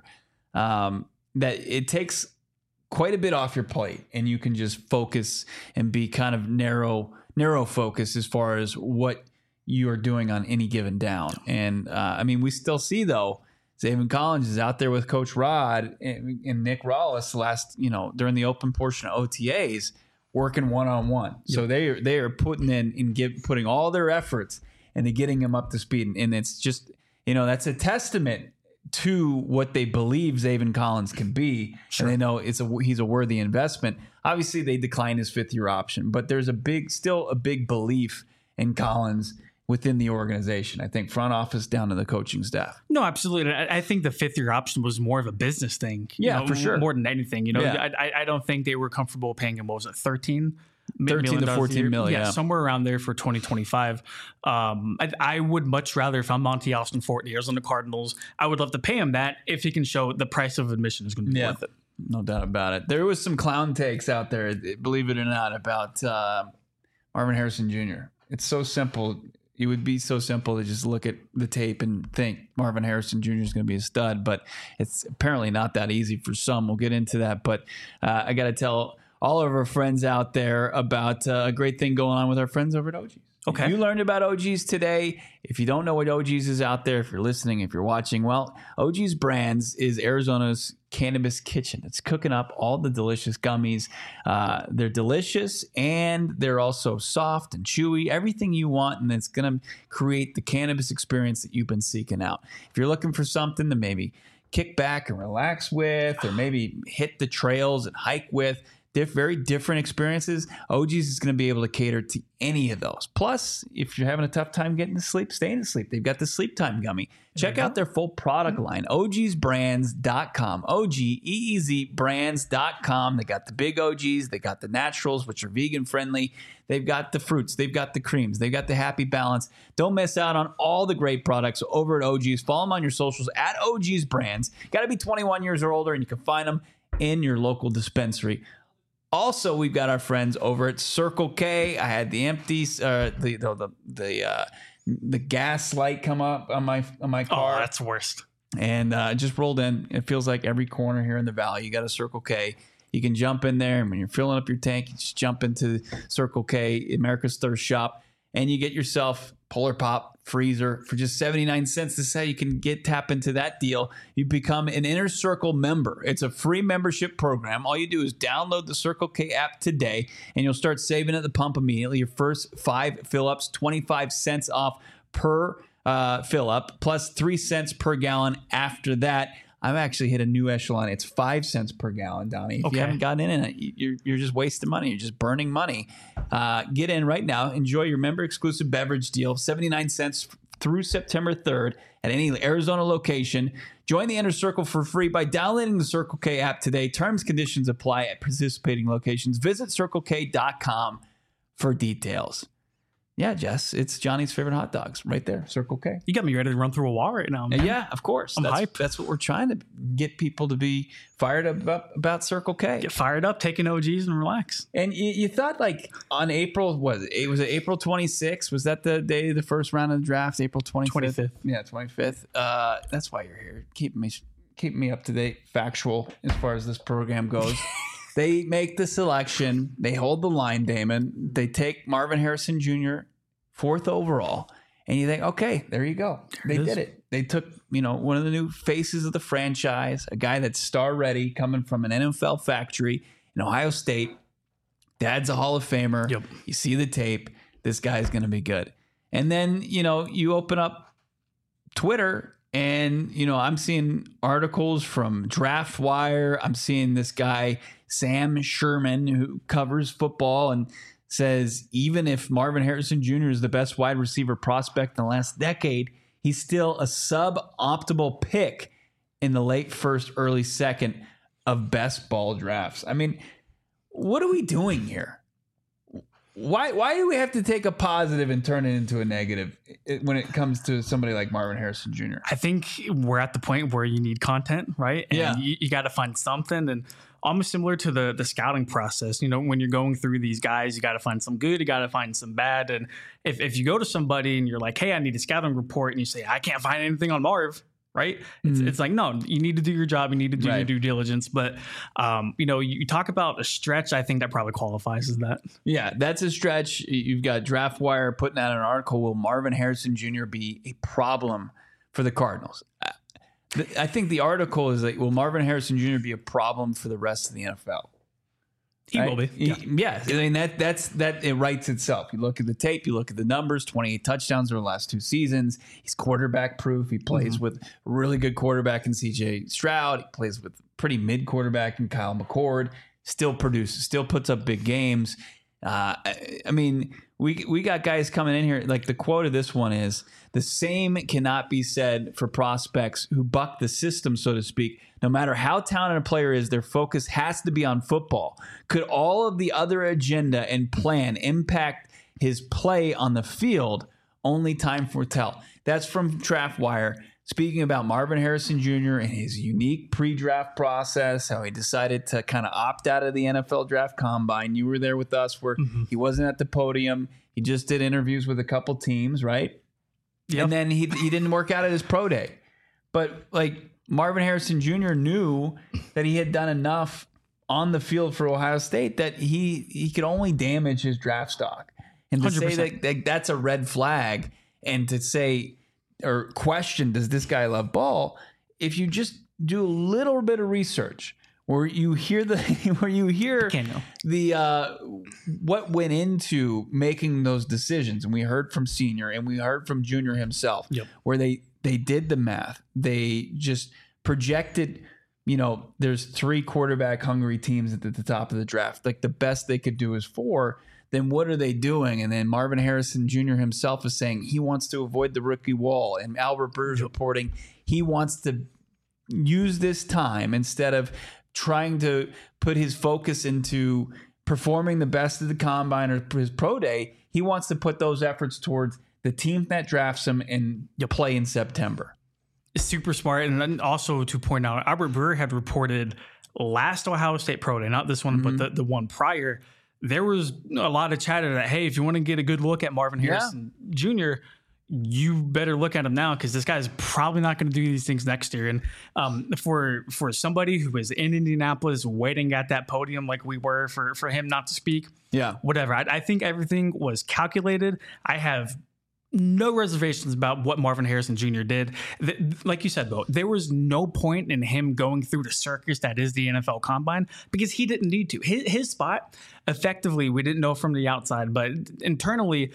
Um, that it takes quite a bit off your plate, and you can just focus and be kind of narrow, narrow focus as far as what you are doing on any given down. And uh, I mean, we still see though, Zaven Collins is out there with Coach Rod and, and Nick Rawlis last, you know, during the open portion of O T As, working one on one. So they are, they are putting in and give, putting all their efforts into getting him up to speed. And, and it's just, you know, that's a testament to what they believe Zaven Collins can be. Sure. And they know it's a, he's a worthy investment. Obviously they declined his fifth year option, but there's a big, still a big belief in Collins within the organization. I think front office down to the coaching staff. No, absolutely. I, I think the fifth year option was more of a business thing. you Yeah, know, for sure. More than anything, you know, Yeah. I, I don't think they were comfortable paying him. What was it? thirteen thirteen to fourteen million. Yeah, Yeah. somewhere around there for twenty twenty-five. Um, I, I would much rather, if I'm Monty Austin, forty years on the Cardinals, I would love to pay him that if he can show the price of admission is going to be Yeah. worth it. No doubt about it. There was some clown takes out there, believe it or not, about uh, Marvin Harrison Junior It's so simple. It would be so simple to just look at the tape and think Marvin Harrison Junior is going to be a stud, but it's apparently not that easy for some. We'll get into that. But uh, I got to tell all of our friends out there about uh, a great thing going on with our friends over at O G's. Okay. You learned about O G's today. If you don't know what O G's is out there, if you're listening, if you're watching, well, O G's Brands is Arizona's cannabis kitchen. It's cooking up all the delicious gummies. Uh, they're delicious and they're also soft and chewy, everything you want, and it's going to create the cannabis experience that you've been seeking out. If you're looking for something to maybe kick back and relax with, or maybe hit the trails and hike with, Diff, very different experiences, O G's is going to be able to cater to any of those. Plus, if you're having a tough time getting to sleep, staying to sleep, they've got the Sleep Time Gummy. Check out their full product line, O Gs brands dot com. O G E E Z brands dot com. They got the big O Gs. They got the naturals, which are vegan friendly. They've got the fruits. They've got the creams. They've got the Happy Balance. Don't miss out on all the great products over at O G's. Follow them on your socials at O G's Brands. Got to be twenty-one years or older, and you can find them in your local dispensary. Also, we've got our friends over at Circle K. I had the empty, uh, the the the the, uh, the gas light come up on my on my car. Oh, that's worst. And uh, it just rolled in. It feels like every corner here in the valley, you got a Circle K. You can jump in there, and when you're filling up your tank, you just jump into Circle K, America's Thirst Shop, and you get yourself Polar Pop freezer for just seventy-nine cents. This is how you can get tap into that deal. You become an Inner Circle member. It's a free membership program. All you do is download the Circle K app today, and you'll start saving at the pump immediately. Your first five fill-ups, twenty-five cents off per uh, fill up, plus three cents per gallon after that. I've actually hit a new echelon. It's five cents per gallon, Donnie. If Okay. you haven't gotten in it, you're, you're just wasting money. You're just burning money. Uh, get in right now. Enjoy your member-exclusive beverage deal, seventy-nine cents through September third at any Arizona location. Join the Inner Circle for free by downloading the Circle K app today. Terms, conditions apply at participating locations. Visit circle k dot com for details. Yeah, Jess, it's Johnny's favorite hot dogs right there, Circle K. You got me ready to run through a wall right now, man. Yeah, of course. I'm that's, hype. That's what we're trying to get people to be fired up about, about Circle K. Get fired up, take an O Gs, and relax. And you, you thought like on April, was it, was it April twenty-sixth? Was that the day of the first round of the draft, April twenty-fifth? twenty-fifth. Yeah, twenty-fifth. Uh, that's why you're here. Keep me keep me up to date, factual as far as this program goes. They make the selection. They hold the line, Damon. They take Marvin Harrison Junior fourth overall. And you think, okay, there you go. They did it. They took, you know, one of the new faces of the franchise, a guy that's star ready, coming from an N F L factory in Ohio State. Dad's a Hall of Famer. Yep. You see the tape. This guy's going to be good. And then, you know, you open up Twitter and, you know, I'm seeing articles from Draft Wire. I'm seeing this guy, Sam Sherman, who covers football and says even if Marvin Harrison Junior is the best wide receiver prospect in the last decade, he's still a suboptimal pick in the late first, early second of best ball drafts. I mean, what are we doing here? Why why do we have to take a positive and turn it into a negative when it comes to somebody like Marvin Harrison Junior? I think we're at the point where you need content, right? And Yeah. you, you got to find something. And almost similar to the the scouting process. You know, when you're going through these guys, you got to find some good, you got to find some bad. And if, if you go to somebody and you're like, hey, I need a scouting report, and you say, I can't find anything on Marv, right? It's, Mhm. it's like, no, you need to do your job. You need to do your Right. due diligence. But, um, you know, you, you talk about a stretch. I think that probably qualifies as that. Yeah, that's a stretch. You've got Draft Wire putting out an article. Will Marvin Harrison Junior be a problem for the Cardinals? I think the article is like, will Marvin Harrison Junior be a problem for the rest of the N F L? He Right? will be. He- yeah. I mean, that that's that it writes itself. You look at the tape, you look at the numbers, twenty-eight touchdowns over the last two seasons. He's quarterback proof. He plays with a really good quarterback in C J Stroud. He plays with pretty mid quarterback in Kyle McCord. Still produces, still puts up big games. Uh, I, I mean, we we got guys coming in here. Like the quote of this one is, the same cannot be said for prospects who buck the system, so to speak. No matter how talented a player is, their focus has to be on football. Could all of the other agenda and plan impact his play on the field? Only time will tell. That's from Draft Wire. Speaking about Marvin Harrison Junior and his unique pre-draft process, how he decided to kind of opt out of the N F L draft combine. You were there with us where Mm-hmm. he wasn't at the podium. He just did interviews with a couple teams, right? Yep. And then he he didn't work out at his pro day. But like Marvin Harrison Junior knew that he had done enough on the field for Ohio State that he he could only damage his draft stock. And to one hundred say percent. that, that that's a red flag, and to say or question, does this guy love ball? If you just do a little bit of research, where you hear the where you hear Can't know. the uh, what went into making those decisions, and we heard from Senior and we heard from Junior himself, Yep. where they they did the math, they just projected. You know, there's three quarterback hungry teams at the, the top of the draft. Like the best they could do is four. Then what are they doing? And then Marvin Harrison Junior himself is saying he wants to avoid the rookie wall. And Albert Breer's reporting he wants to use this time instead of trying to put his focus into performing the best of the combine or his pro day. He wants to put those efforts towards the team that drafts him and play in September. Super smart. And then also to point out, Albert Breer had reported last Ohio State Pro Day, not this one, Mm-hmm. but the, the one prior, there was a lot of chatter that, hey, if you want to get a good look at Marvin Yeah. Harrison Junior, you better look at him now because this guy's probably not going to do these things next year. And um, for for somebody who is in Indianapolis waiting at that podium like we were for, for him not to speak, Yeah. whatever. I, I think everything was calculated. I have no reservations about what Marvin Harrison Junior did. Th- like you said, though, there was no point in him going through the circus that is the N F L Combine because he didn't need to. His, his spot, effectively, we didn't know from the outside, but internally,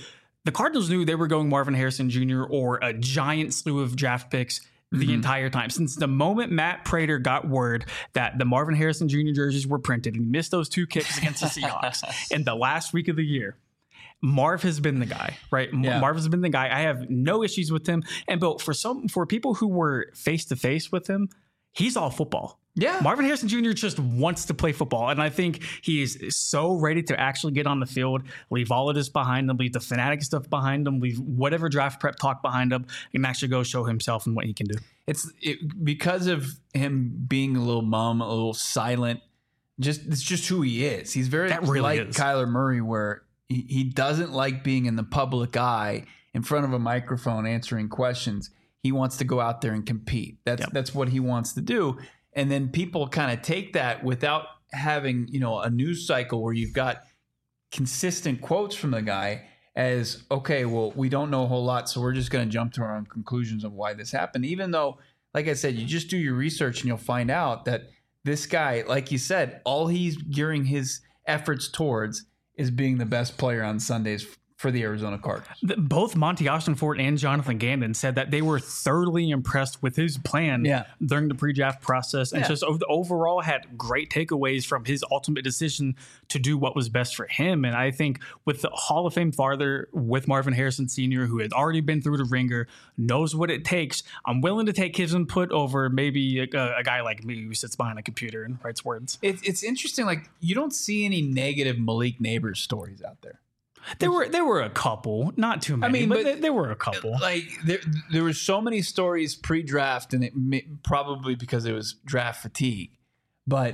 the Cardinals knew they were going Marvin Harrison Junior or a giant slew of draft picks the mm-hmm. entire time. Since the moment Matt Prater got word that the Marvin Harrison Junior jerseys were printed and he missed those two kicks against the Seahawks in the last week of the year, Marv has been the guy, right? Yeah. Marv has been the guy. I have no issues with him. And Bill, for some, for people who were face to face with him, he's all football. Yeah. Marvin Harrison Junior just wants to play football. And I think he is so ready to actually get on the field, leave all of this behind him, leave the fanatic stuff behind him, leave whatever draft prep talk behind him, and actually go show himself and what he can do. It's it, because of him being a little mum, a little silent. Just it's just who he is. He's very that really like is. Kyler Murray, where he, he doesn't like being in the public eye in front of a microphone answering questions. He wants to go out there and compete. That's yep. that's what he wants to do. And then people kind of take that without having, you know, a news cycle where you've got consistent quotes from the guy as, okay, well, we don't know a whole lot, so we're just going to jump to our own conclusions of why this happened. Even though, like I said, you just do your research and you'll find out that this guy, like you said, all he's gearing his efforts towards is being the best player on Sundays for the Arizona Cardinals. Both Monty Ossenfort and Jonathan Gannon said that they were thoroughly impressed with his plan yeah. during the pre-draft process and yeah. just overall had great takeaways from his ultimate decision to do what was best for him. And I think with the Hall of Fame father, with Marvin Harrison Senior, who had already been through the ringer, knows what it takes, I'm willing to take his input over maybe a, a guy like me who sits behind a computer and writes words. It, it's interesting. Like, you don't see any negative Malik Neighbors stories out there. There were there were a couple, not too many. I mean, but, but there, there were a couple. Like there, there were so many stories pre-draft, and it may, probably because it was draft fatigue. But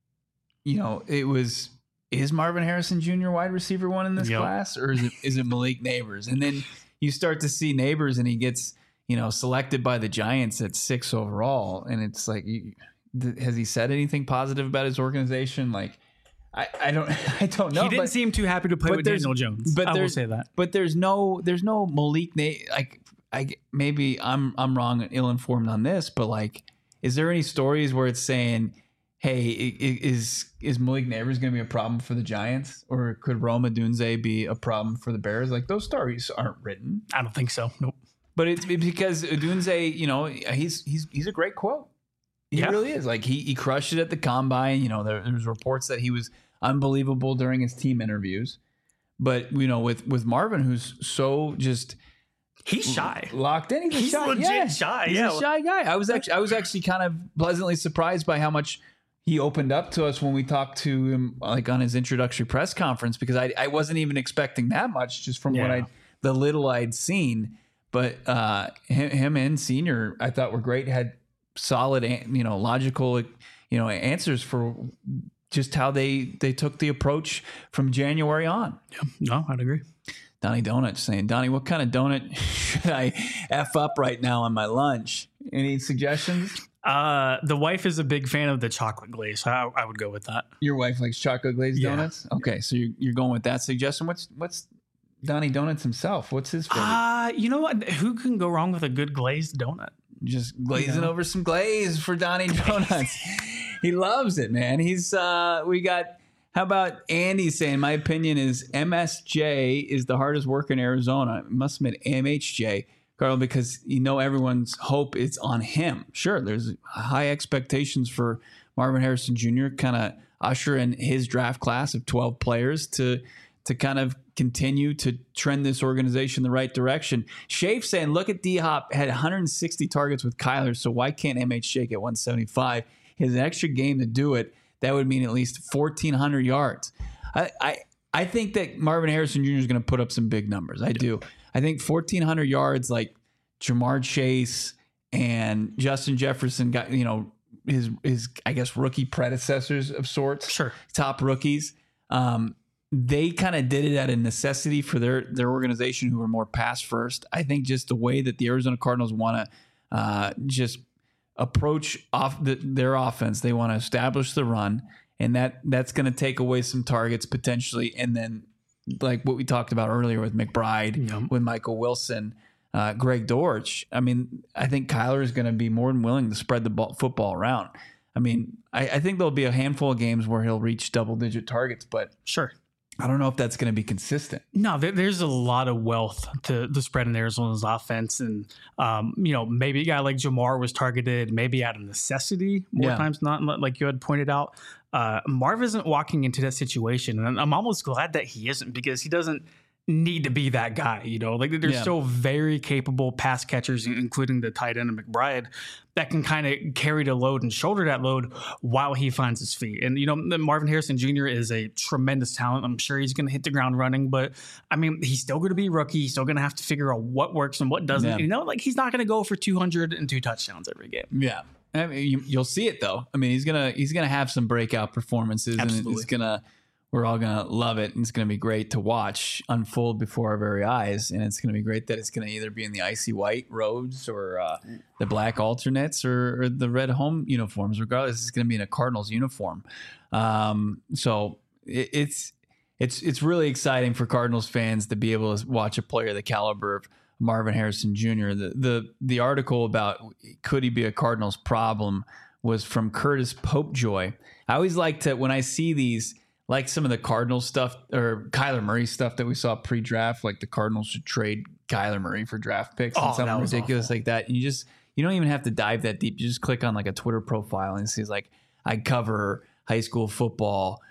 you know, it was is Marvin Harrison Junior wide receiver one in this yep. class, or is it is it Malik Neighbors? And then you start to see Neighbors, and he gets you know selected by the Giants at six overall, and it's like, you, has he said anything positive about his organization? Like. I, I don't I don't know. He didn't but, seem too happy to play with Daniel Jones. But I will say that. But there's no there's no Malik Na- like I maybe I'm I'm wrong and ill informed on this, but like, is there any stories where it's saying, hey, is is Malik Neighbors going to be a problem for the Giants, or could Rome Odunze be a problem for the Bears? Like, those stories aren't written. I don't think so. Nope. But it's because Odunze, you know, he's he's he's a great quote. He yeah. really is. Like, he he crushed it at the combine. You know, there, there was reports that he was unbelievable during his team interviews. But, you know, with, with Marvin, who's so just he's shy, locked in. He's, he's shy. legit yeah. shy. He's yeah. a shy guy. I was actually I was actually kind of pleasantly surprised by how much he opened up to us when we talked to him, like on his introductory press conference, because I I wasn't even expecting that much just from yeah. what I the little I'd seen. But uh, him, him and Senior, I thought were great. Had solid, you know, logical, you know, answers for just how they they took the approach from January on. Yeah, no, I'd agree. Donnie Donut saying, Donnie, what kind of donut should I F up right now on my lunch? Any suggestions? Uh, the wife is a big fan of the chocolate glaze. So I, I would go with that. Your wife likes chocolate glazed yeah. donuts? Okay, so you're, you're going with that suggestion. What's what's Donnie Donuts himself? What's his favorite? Uh, you know what? Who can go wrong with a good glazed donut? Just glazing you know? over some glaze for Donnie Donuts. He loves it, man. He's uh, we got. How about Andy saying, my opinion is M S J is the hardest worker in Arizona. It must have been M H J, Carl, because you know everyone's hope is on him. Sure, there's high expectations for Marvin Harrison Junior, kind of usher in his draft class of twelve players to to kind of continue to trend this organization in the right direction. Shafe saying, look at D-Hop, had one hundred sixty targets with Kyler, so why can't M H J get one seventy-five? He has an extra game to do it. That would mean at least fourteen hundred yards. I, I I think that Marvin Harrison Junior is going to put up some big numbers. I do. I think fourteen hundred yards, like Jamar Chase and Justin Jefferson got, you know, his, his I guess, rookie predecessors of sorts. Sure. Top rookies. Um, they kind of did it out of necessity for their, their organization, who were more pass first. I think just the way that the Arizona Cardinals want to uh, just approach off the, their offense, they want to establish the run, and that that's going to take away some targets potentially. And then, like what we talked about earlier with McBride, yeah. with Michael Wilson, uh, Greg Dortch. I mean, I think Kyler is going to be more than willing to spread the ball, football around. I mean, I, I think there'll be a handful of games where he'll reach double digit targets, but sure, I don't know if that's going to be consistent. No, there, there's a lot of wealth to the spread in Arizona's offense. And, um, you know, maybe a guy like Jamar was targeted, maybe out of necessity more Yeah. times not, like you had pointed out. Uh, Marv isn't walking into that situation. And I'm almost glad that he isn't, because he doesn't need to be that guy. You know, like there's Yeah. still very capable pass catchers, including the tight end of McBride, that can kind of carry the load and shoulder that load while he finds his feet. And, you know, Marvin Harrison Junior is a tremendous talent. I'm sure he's going to hit the ground running, but I mean, he's still going to be a rookie. He's still going to have to figure out what works and what doesn't. Yeah. You know, like he's not going to go for two hundred two touchdowns every game. Yeah. I mean, you, you'll see it though. I mean, he's gonna he's gonna have some breakout performances, Absolutely. and it's gonna we're all gonna love it, and it's gonna be great to watch unfold before our very eyes. And it's gonna be great that it's gonna either be in the icy white robes or uh, the black alternates or, or the red home uniforms. Regardless, it's gonna be in a Cardinals uniform. Um, so it, it's it's it's really exciting for Cardinals fans to be able to watch a player the caliber of Marvin Harrison Junior The the the article about could he be a Cardinals problem was from Curtis Popejoy. I always like to, when I see these, like some of the Cardinals stuff or Kyler Murray stuff that we saw pre-draft, like the Cardinals should trade Kyler Murray for draft picks Oh, and that something was ridiculous awful. like that. And you just you don't even have to dive that deep. You just click on like a Twitter profile and it says like, I cover high school football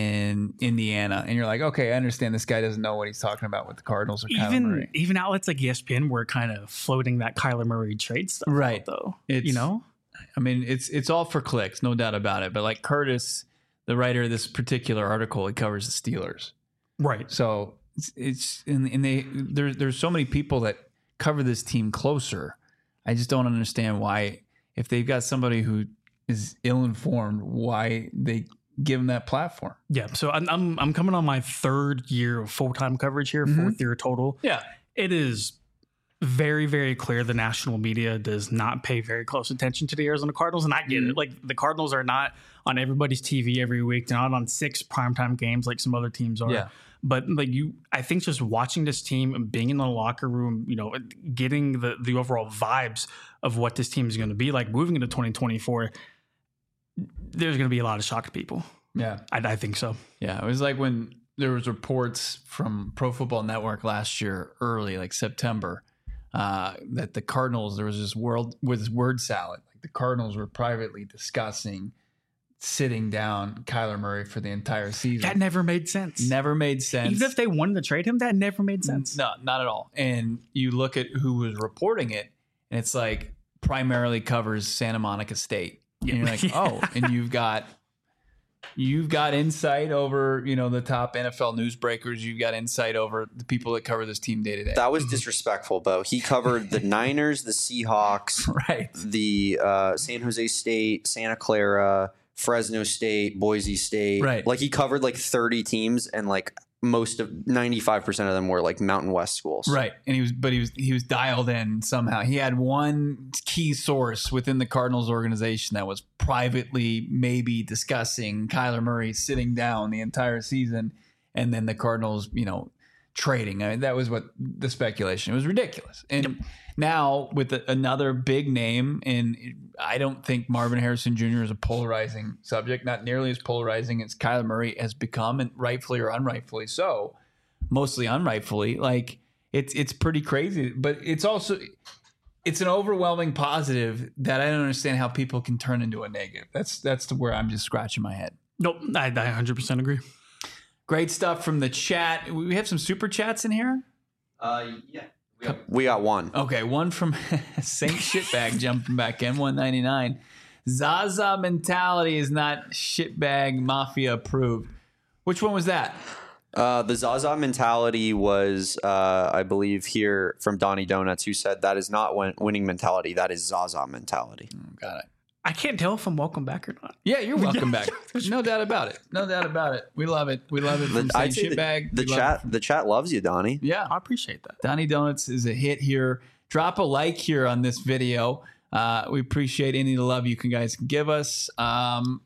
in Indiana, and you're like, okay, I understand this guy doesn't know what he's talking about with the Cardinals or Kyler Even Murray. even outlets like E S P N were kind of floating that Kyler Murray trade stuff, Right. out, though. It's- you know, I mean, it's it's all for clicks, no doubt about it. But like Curtis, the writer of this particular article, he covers the Steelers. right? So it's, it's and, and they there's there's so many people that cover this team closer. I just don't understand why, if they've got somebody who is ill informed, why they give them that platform. Yeah. So I'm I'm, I'm coming on my third year of full time coverage here, Mhm. fourth year total. Yeah, It is very, very clear the national media does not pay very close attention to the Arizona Cardinals. And I get Mm-hmm. it. Like the Cardinals are not on everybody's T V every week. They're not on six primetime games like some other teams are. Yeah. But like you, I think just watching this team and being in the locker room, you know, getting the, the overall vibes of what this team is going to be like moving into twenty twenty-four, there's going to be a lot of shocked people. yeah, I, I think so. yeah. It was like when there was reports from Pro Football Network last year, early like September, uh, that the Cardinals, there was this world with this word salad. Like the Cardinals were privately discussing sitting down Kyler Murray for the entire season. That never made sense. Never made sense. Even if they wanted to trade him, that never made sense. No, not at all. And you look at who was reporting it, and it's like primarily covers Santa Monica State. And you're like, oh, and you've got you've got insight over, you know, the top N F L newsbreakers. You've got insight over the people that cover this team day to day. That was disrespectful, Bo. He covered the Niners, the Seahawks, Right. the uh, San Jose State, Santa Clara, Fresno State, Boise State. Right. Like he covered like thirty teams, and like most of ninety-five percent of them were like Mountain West schools. Right. And he was but he was he was dialed in somehow. He had one key source within the Cardinals organization that was privately maybe discussing Kyler Murray sitting down the entire season, and then the Cardinals, you know, trading. I mean, that was what the speculation. It was ridiculous. And now with the, another big name, and I don't think Marvin Harrison Junior is a polarizing subject, not nearly as polarizing as Kyler Murray has become, and rightfully or unrightfully so, mostly unrightfully. Like it's it's pretty crazy, but it's also it's an overwhelming positive that I don't understand how people can turn into a negative. That's that's the where I'm just scratching my head. Nope. I, I one hundred percent agree. Great stuff from the chat. We have some super chats in here. Uh, yeah. We got one. Okay, one from Saint Shitbag jumping back in, one ninety-nine. Zaza mentality is not shitbag mafia approved. Which one was that? Uh, the Zaza mentality was, uh, I believe, here from Donnie Donuts, who said that is not win- winning mentality. That is Zaza mentality. Got it. I can't tell if I'm welcome back or not. Yeah, you're welcome back. No doubt about it. No doubt about it. We love it. We love it from The, I'd Saint say the, Shitbag. the We love chat, it. the chat loves you, Donnie. Yeah. I appreciate that. Donnie Donuts is a hit here. Drop a like here on this video. Uh, we appreciate any of the love you can guys can give us. Um,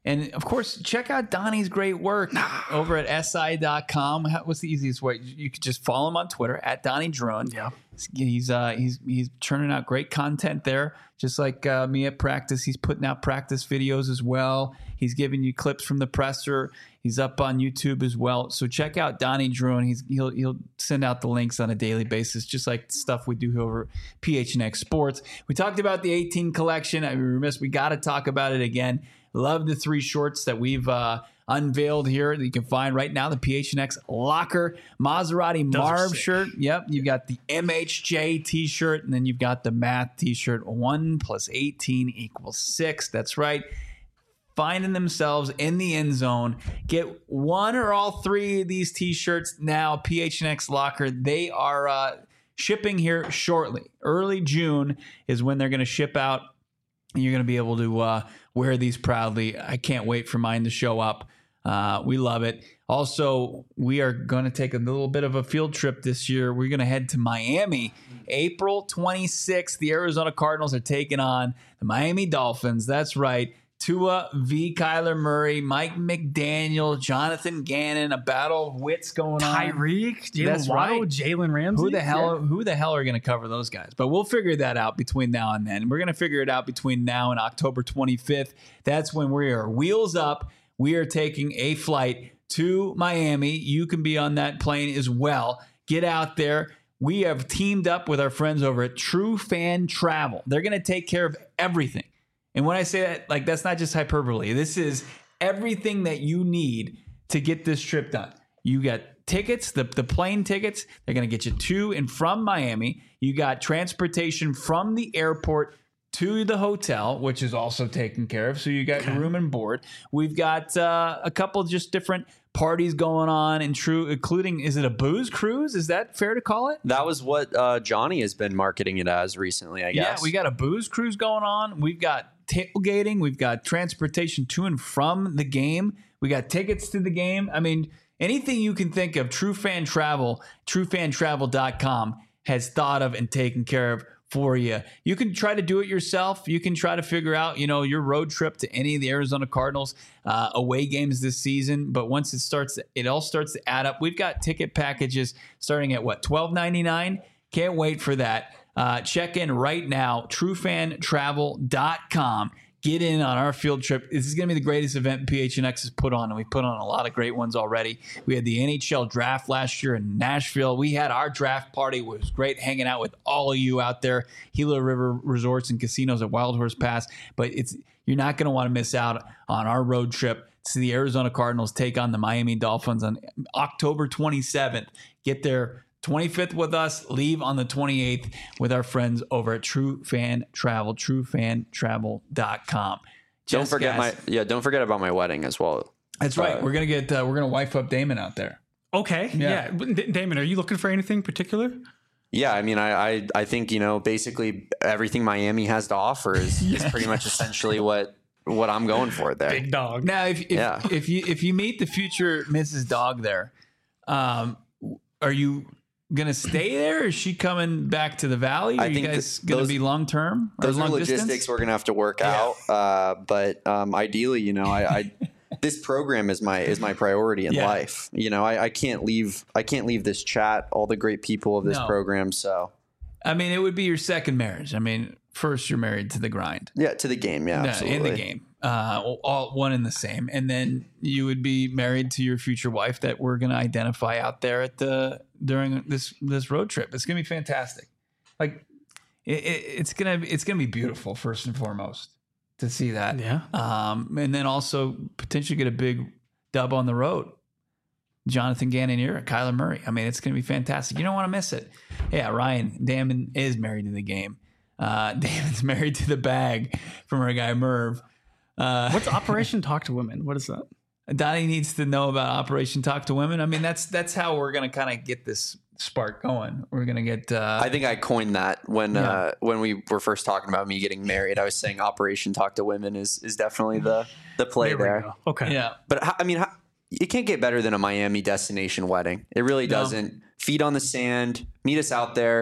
And of course, check out Donnie's great work over at S I dot com. What's the easiest way? You could just follow him on Twitter at Donnie Drone. Yeah. He's uh, he's he's churning out great content there, just like uh, me at practice. He's putting out practice videos as well. He's giving you clips from the presser. He's up on YouTube as well. So check out Donnie Drone. He's he'll he'll send out the links on a daily basis, just like the stuff we do over P H N X Sports. We talked about the eighteen collection. I mean, remiss, we got to talk about it again. Love the three shorts that we've uh, unveiled here that you can find right now. The P H N X Locker Maserati Those are Marv sick. shirt. Yep. You've got the M H J t-shirt, and then you've got the Math t-shirt. One plus eighteen equals six. That's right. Finding themselves in the end zone. Get one or all three of these t-shirts now. P H N X Locker. They are uh, shipping here shortly. Early June is when they're going to ship out. And you're going to be able to uh, wear these proudly. I can't wait for mine to show up. Uh, we love it. Also, we are going to take a little bit of a field trip this year. We're going to head to Miami. April twenty-sixth, the Arizona Cardinals are taking on the Miami Dolphins. That's right. Tua V. Kyler Murray, Mike McDaniel, Jonathan Gannon, a battle of wits going on. Tyreek, That's Jalen Waddle, right. Jalen Ramsey. Who the hell? Yeah. Who the hell are going to cover those guys? But we'll figure that out between now and then. We're going to figure it out between now and October twenty-fifth. That's when we are wheels up. We are taking a flight to Miami. You can be on that plane as well. Get out there. We have teamed up with our friends over at True Fan Travel. They're going to take care of everything. And when I say that, like, that's not just hyperbole. This is everything that you need to get this trip done. You got tickets, the, the plane tickets. They're going to get you to and from Miami. You got transportation from the airport to the hotel, which is also taken care of. So you got Okay. room and board. We've got uh, a couple just different parties going on, and true, including, is it a booze cruise? Is that fair to call it? That was what uh, Johnny has been marketing it as recently, I guess. Yeah, we got a booze cruise going on. We've got tailgating. We've got transportation to and from the game. We got tickets to the game. I mean, anything you can think of, True Fan Travel, true fan travel dot com has thought of and taken care of for you. You can try to do it yourself. You can try to figure out, you know, your road trip to any of the Arizona Cardinals uh, away games this season. But once it starts, it all starts to add up. We've got ticket packages starting at what, twelve ninety-nine? Can't wait for that. Uh, check in right now, true fan travel dot com. Get in on our field trip. This is going to be the greatest event P H N X has put on, and we put on a lot of great ones already. We had the N H L draft last year in Nashville. We had our draft party. It was great hanging out with all of you out there. Gila River Resorts and Casinos at Wild Horse Pass. But it's you're not going to want to miss out on our road trip to see the Arizona Cardinals take on the Miami Dolphins on October twenty-seventh. Get there twenty-fifth with us, leave on the twenty-eighth with our friends over at True Fan Travel, true fan travel dot com. Don't Just forget guys, my yeah. Don't forget about my wedding as well. That's right. uh, we're gonna get uh, we're gonna wife up Damon out there. Okay. Yeah. Yeah. D- Damon, are you looking for anything particular? Yeah, I mean, I, I I think you know basically everything Miami has to offer is, is pretty much essentially what what I'm going for there. Big dog. Now, if if, Yeah. if you if you meet the future Missus Dog there, um, are you gonna stay there? Or is she coming back to the valley? Are I you think guys that gonna those- be long term? Those are long logistics distance? we're gonna have to work out. Uh, but um, ideally, you know, I, I this program is my is my priority in Yeah. life. You know, I, I can't leave I can't leave this chat, all the great people of this No. program. So I mean, it would be your second marriage. I mean, first you're married to the grind. yeah, to the game. Yeah, No, absolutely. in the game, uh, all one and the same, and then you would be married to your future wife that we're going to identify out there at the during this this road trip. It's going to be fantastic. Like it, it, it's gonna it's gonna be beautiful first and foremost to see that. Yeah. Um, and then also potentially get a big dub on the road. Jonathan Gannon here, Kyler Murray. I mean, it's going to be fantastic. You don't want to miss it. Yeah, Ryan Damon is married to the game. Uh, Damon's married to the bag from our guy Merv. Uh, What's Operation Talk to Women? What is that? Donnie needs to know about Operation Talk to Women. I mean, that's that's how we're going to kind of get this spark going. We're going to get. Uh, I think I coined that when Yeah. uh, when we were first talking about me getting married. I was saying Operation Talk to Women is is definitely the the play There there. we go. Okay. yeah. But how, I mean, how, it can't get better than a Miami destination wedding. It really No. doesn't. Feet on the sand, meet us out there.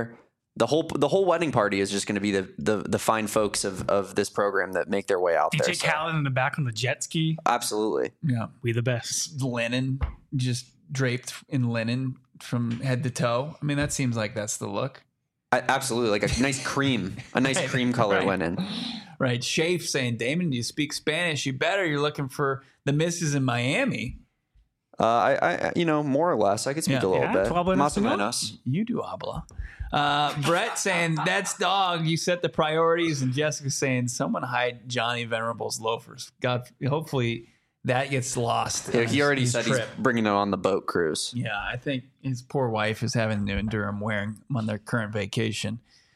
the whole the whole wedding party is just going to be the, the the fine folks of of this program that make their way out D J there. D J Khaled in the back on the jet ski. Absolutely. Yeah. We the best. Linen, just draped in linen from head to toe. I mean, that seems like that's the look. I, absolutely. Like a nice cream, a nice Right, cream color right. linen. Right. Shafe saying, Damon, do you speak Spanish? You better. You're looking for the missus in Miami. Uh, I, I, you know, more or less, I could speak Yeah. a little Yeah, bit. tú hablas Más o español? menos. You do habla. Uh, Brett saying, that's dog. You set the priorities. And Jessica saying, someone hide Johnny Venerable's loafers. God, hopefully that gets lost. Yeah, on he his- already his said trip. he's bringing it on the boat cruise. Yeah, I think his poor wife is having to endure him wearing them on their current vacation.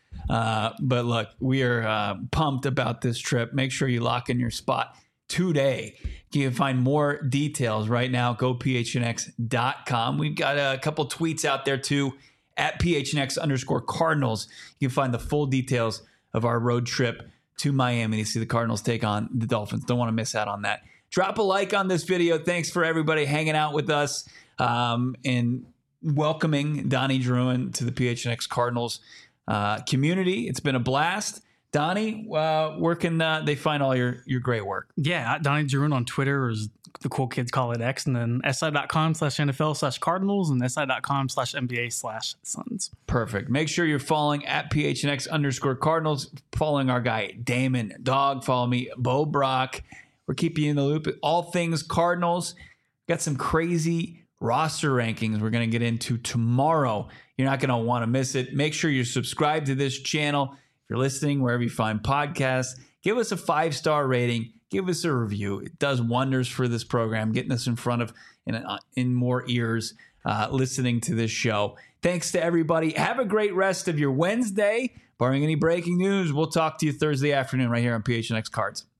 Uh, but look, we are uh, pumped about this trip. Make sure you lock in your spot today. You can find more details right now. Go P H N X dot com. We've got a couple tweets out there too at P H N X underscore Cardinals. You can find the full details of our road trip to Miami to see the Cardinals take on the Dolphins. Don't want to miss out on that. Drop a like on this video. Thanks for everybody hanging out with us um, and welcoming Donnie Druin to the P H N X Cardinals uh, community. It's been a blast. Donnie, uh, where can uh, they find all your, your great work? Yeah, at Donnie Druin on Twitter, or as the cool kids call it, X, and then si.com slash NFL slash Cardinals and si.com slash NBA slash Suns. Perfect. Make sure you're following at P H N X underscore Cardinals, following our guy Damon Dog. Follow me, Bo Brock. We're keeping you in the loop. All things Cardinals. Got some crazy roster rankings we're going to get into tomorrow. You're not going to want to miss it. Make sure you're subscribed to this channel. If you're listening, wherever you find podcasts, give us a five-star rating. Give us a review. It does wonders for this program, getting us in front of in, in more ears uh, listening to this show. Thanks to everybody. Have a great rest of your Wednesday. Barring any breaking news, we'll talk to you Thursday afternoon right here on P H N X Cards.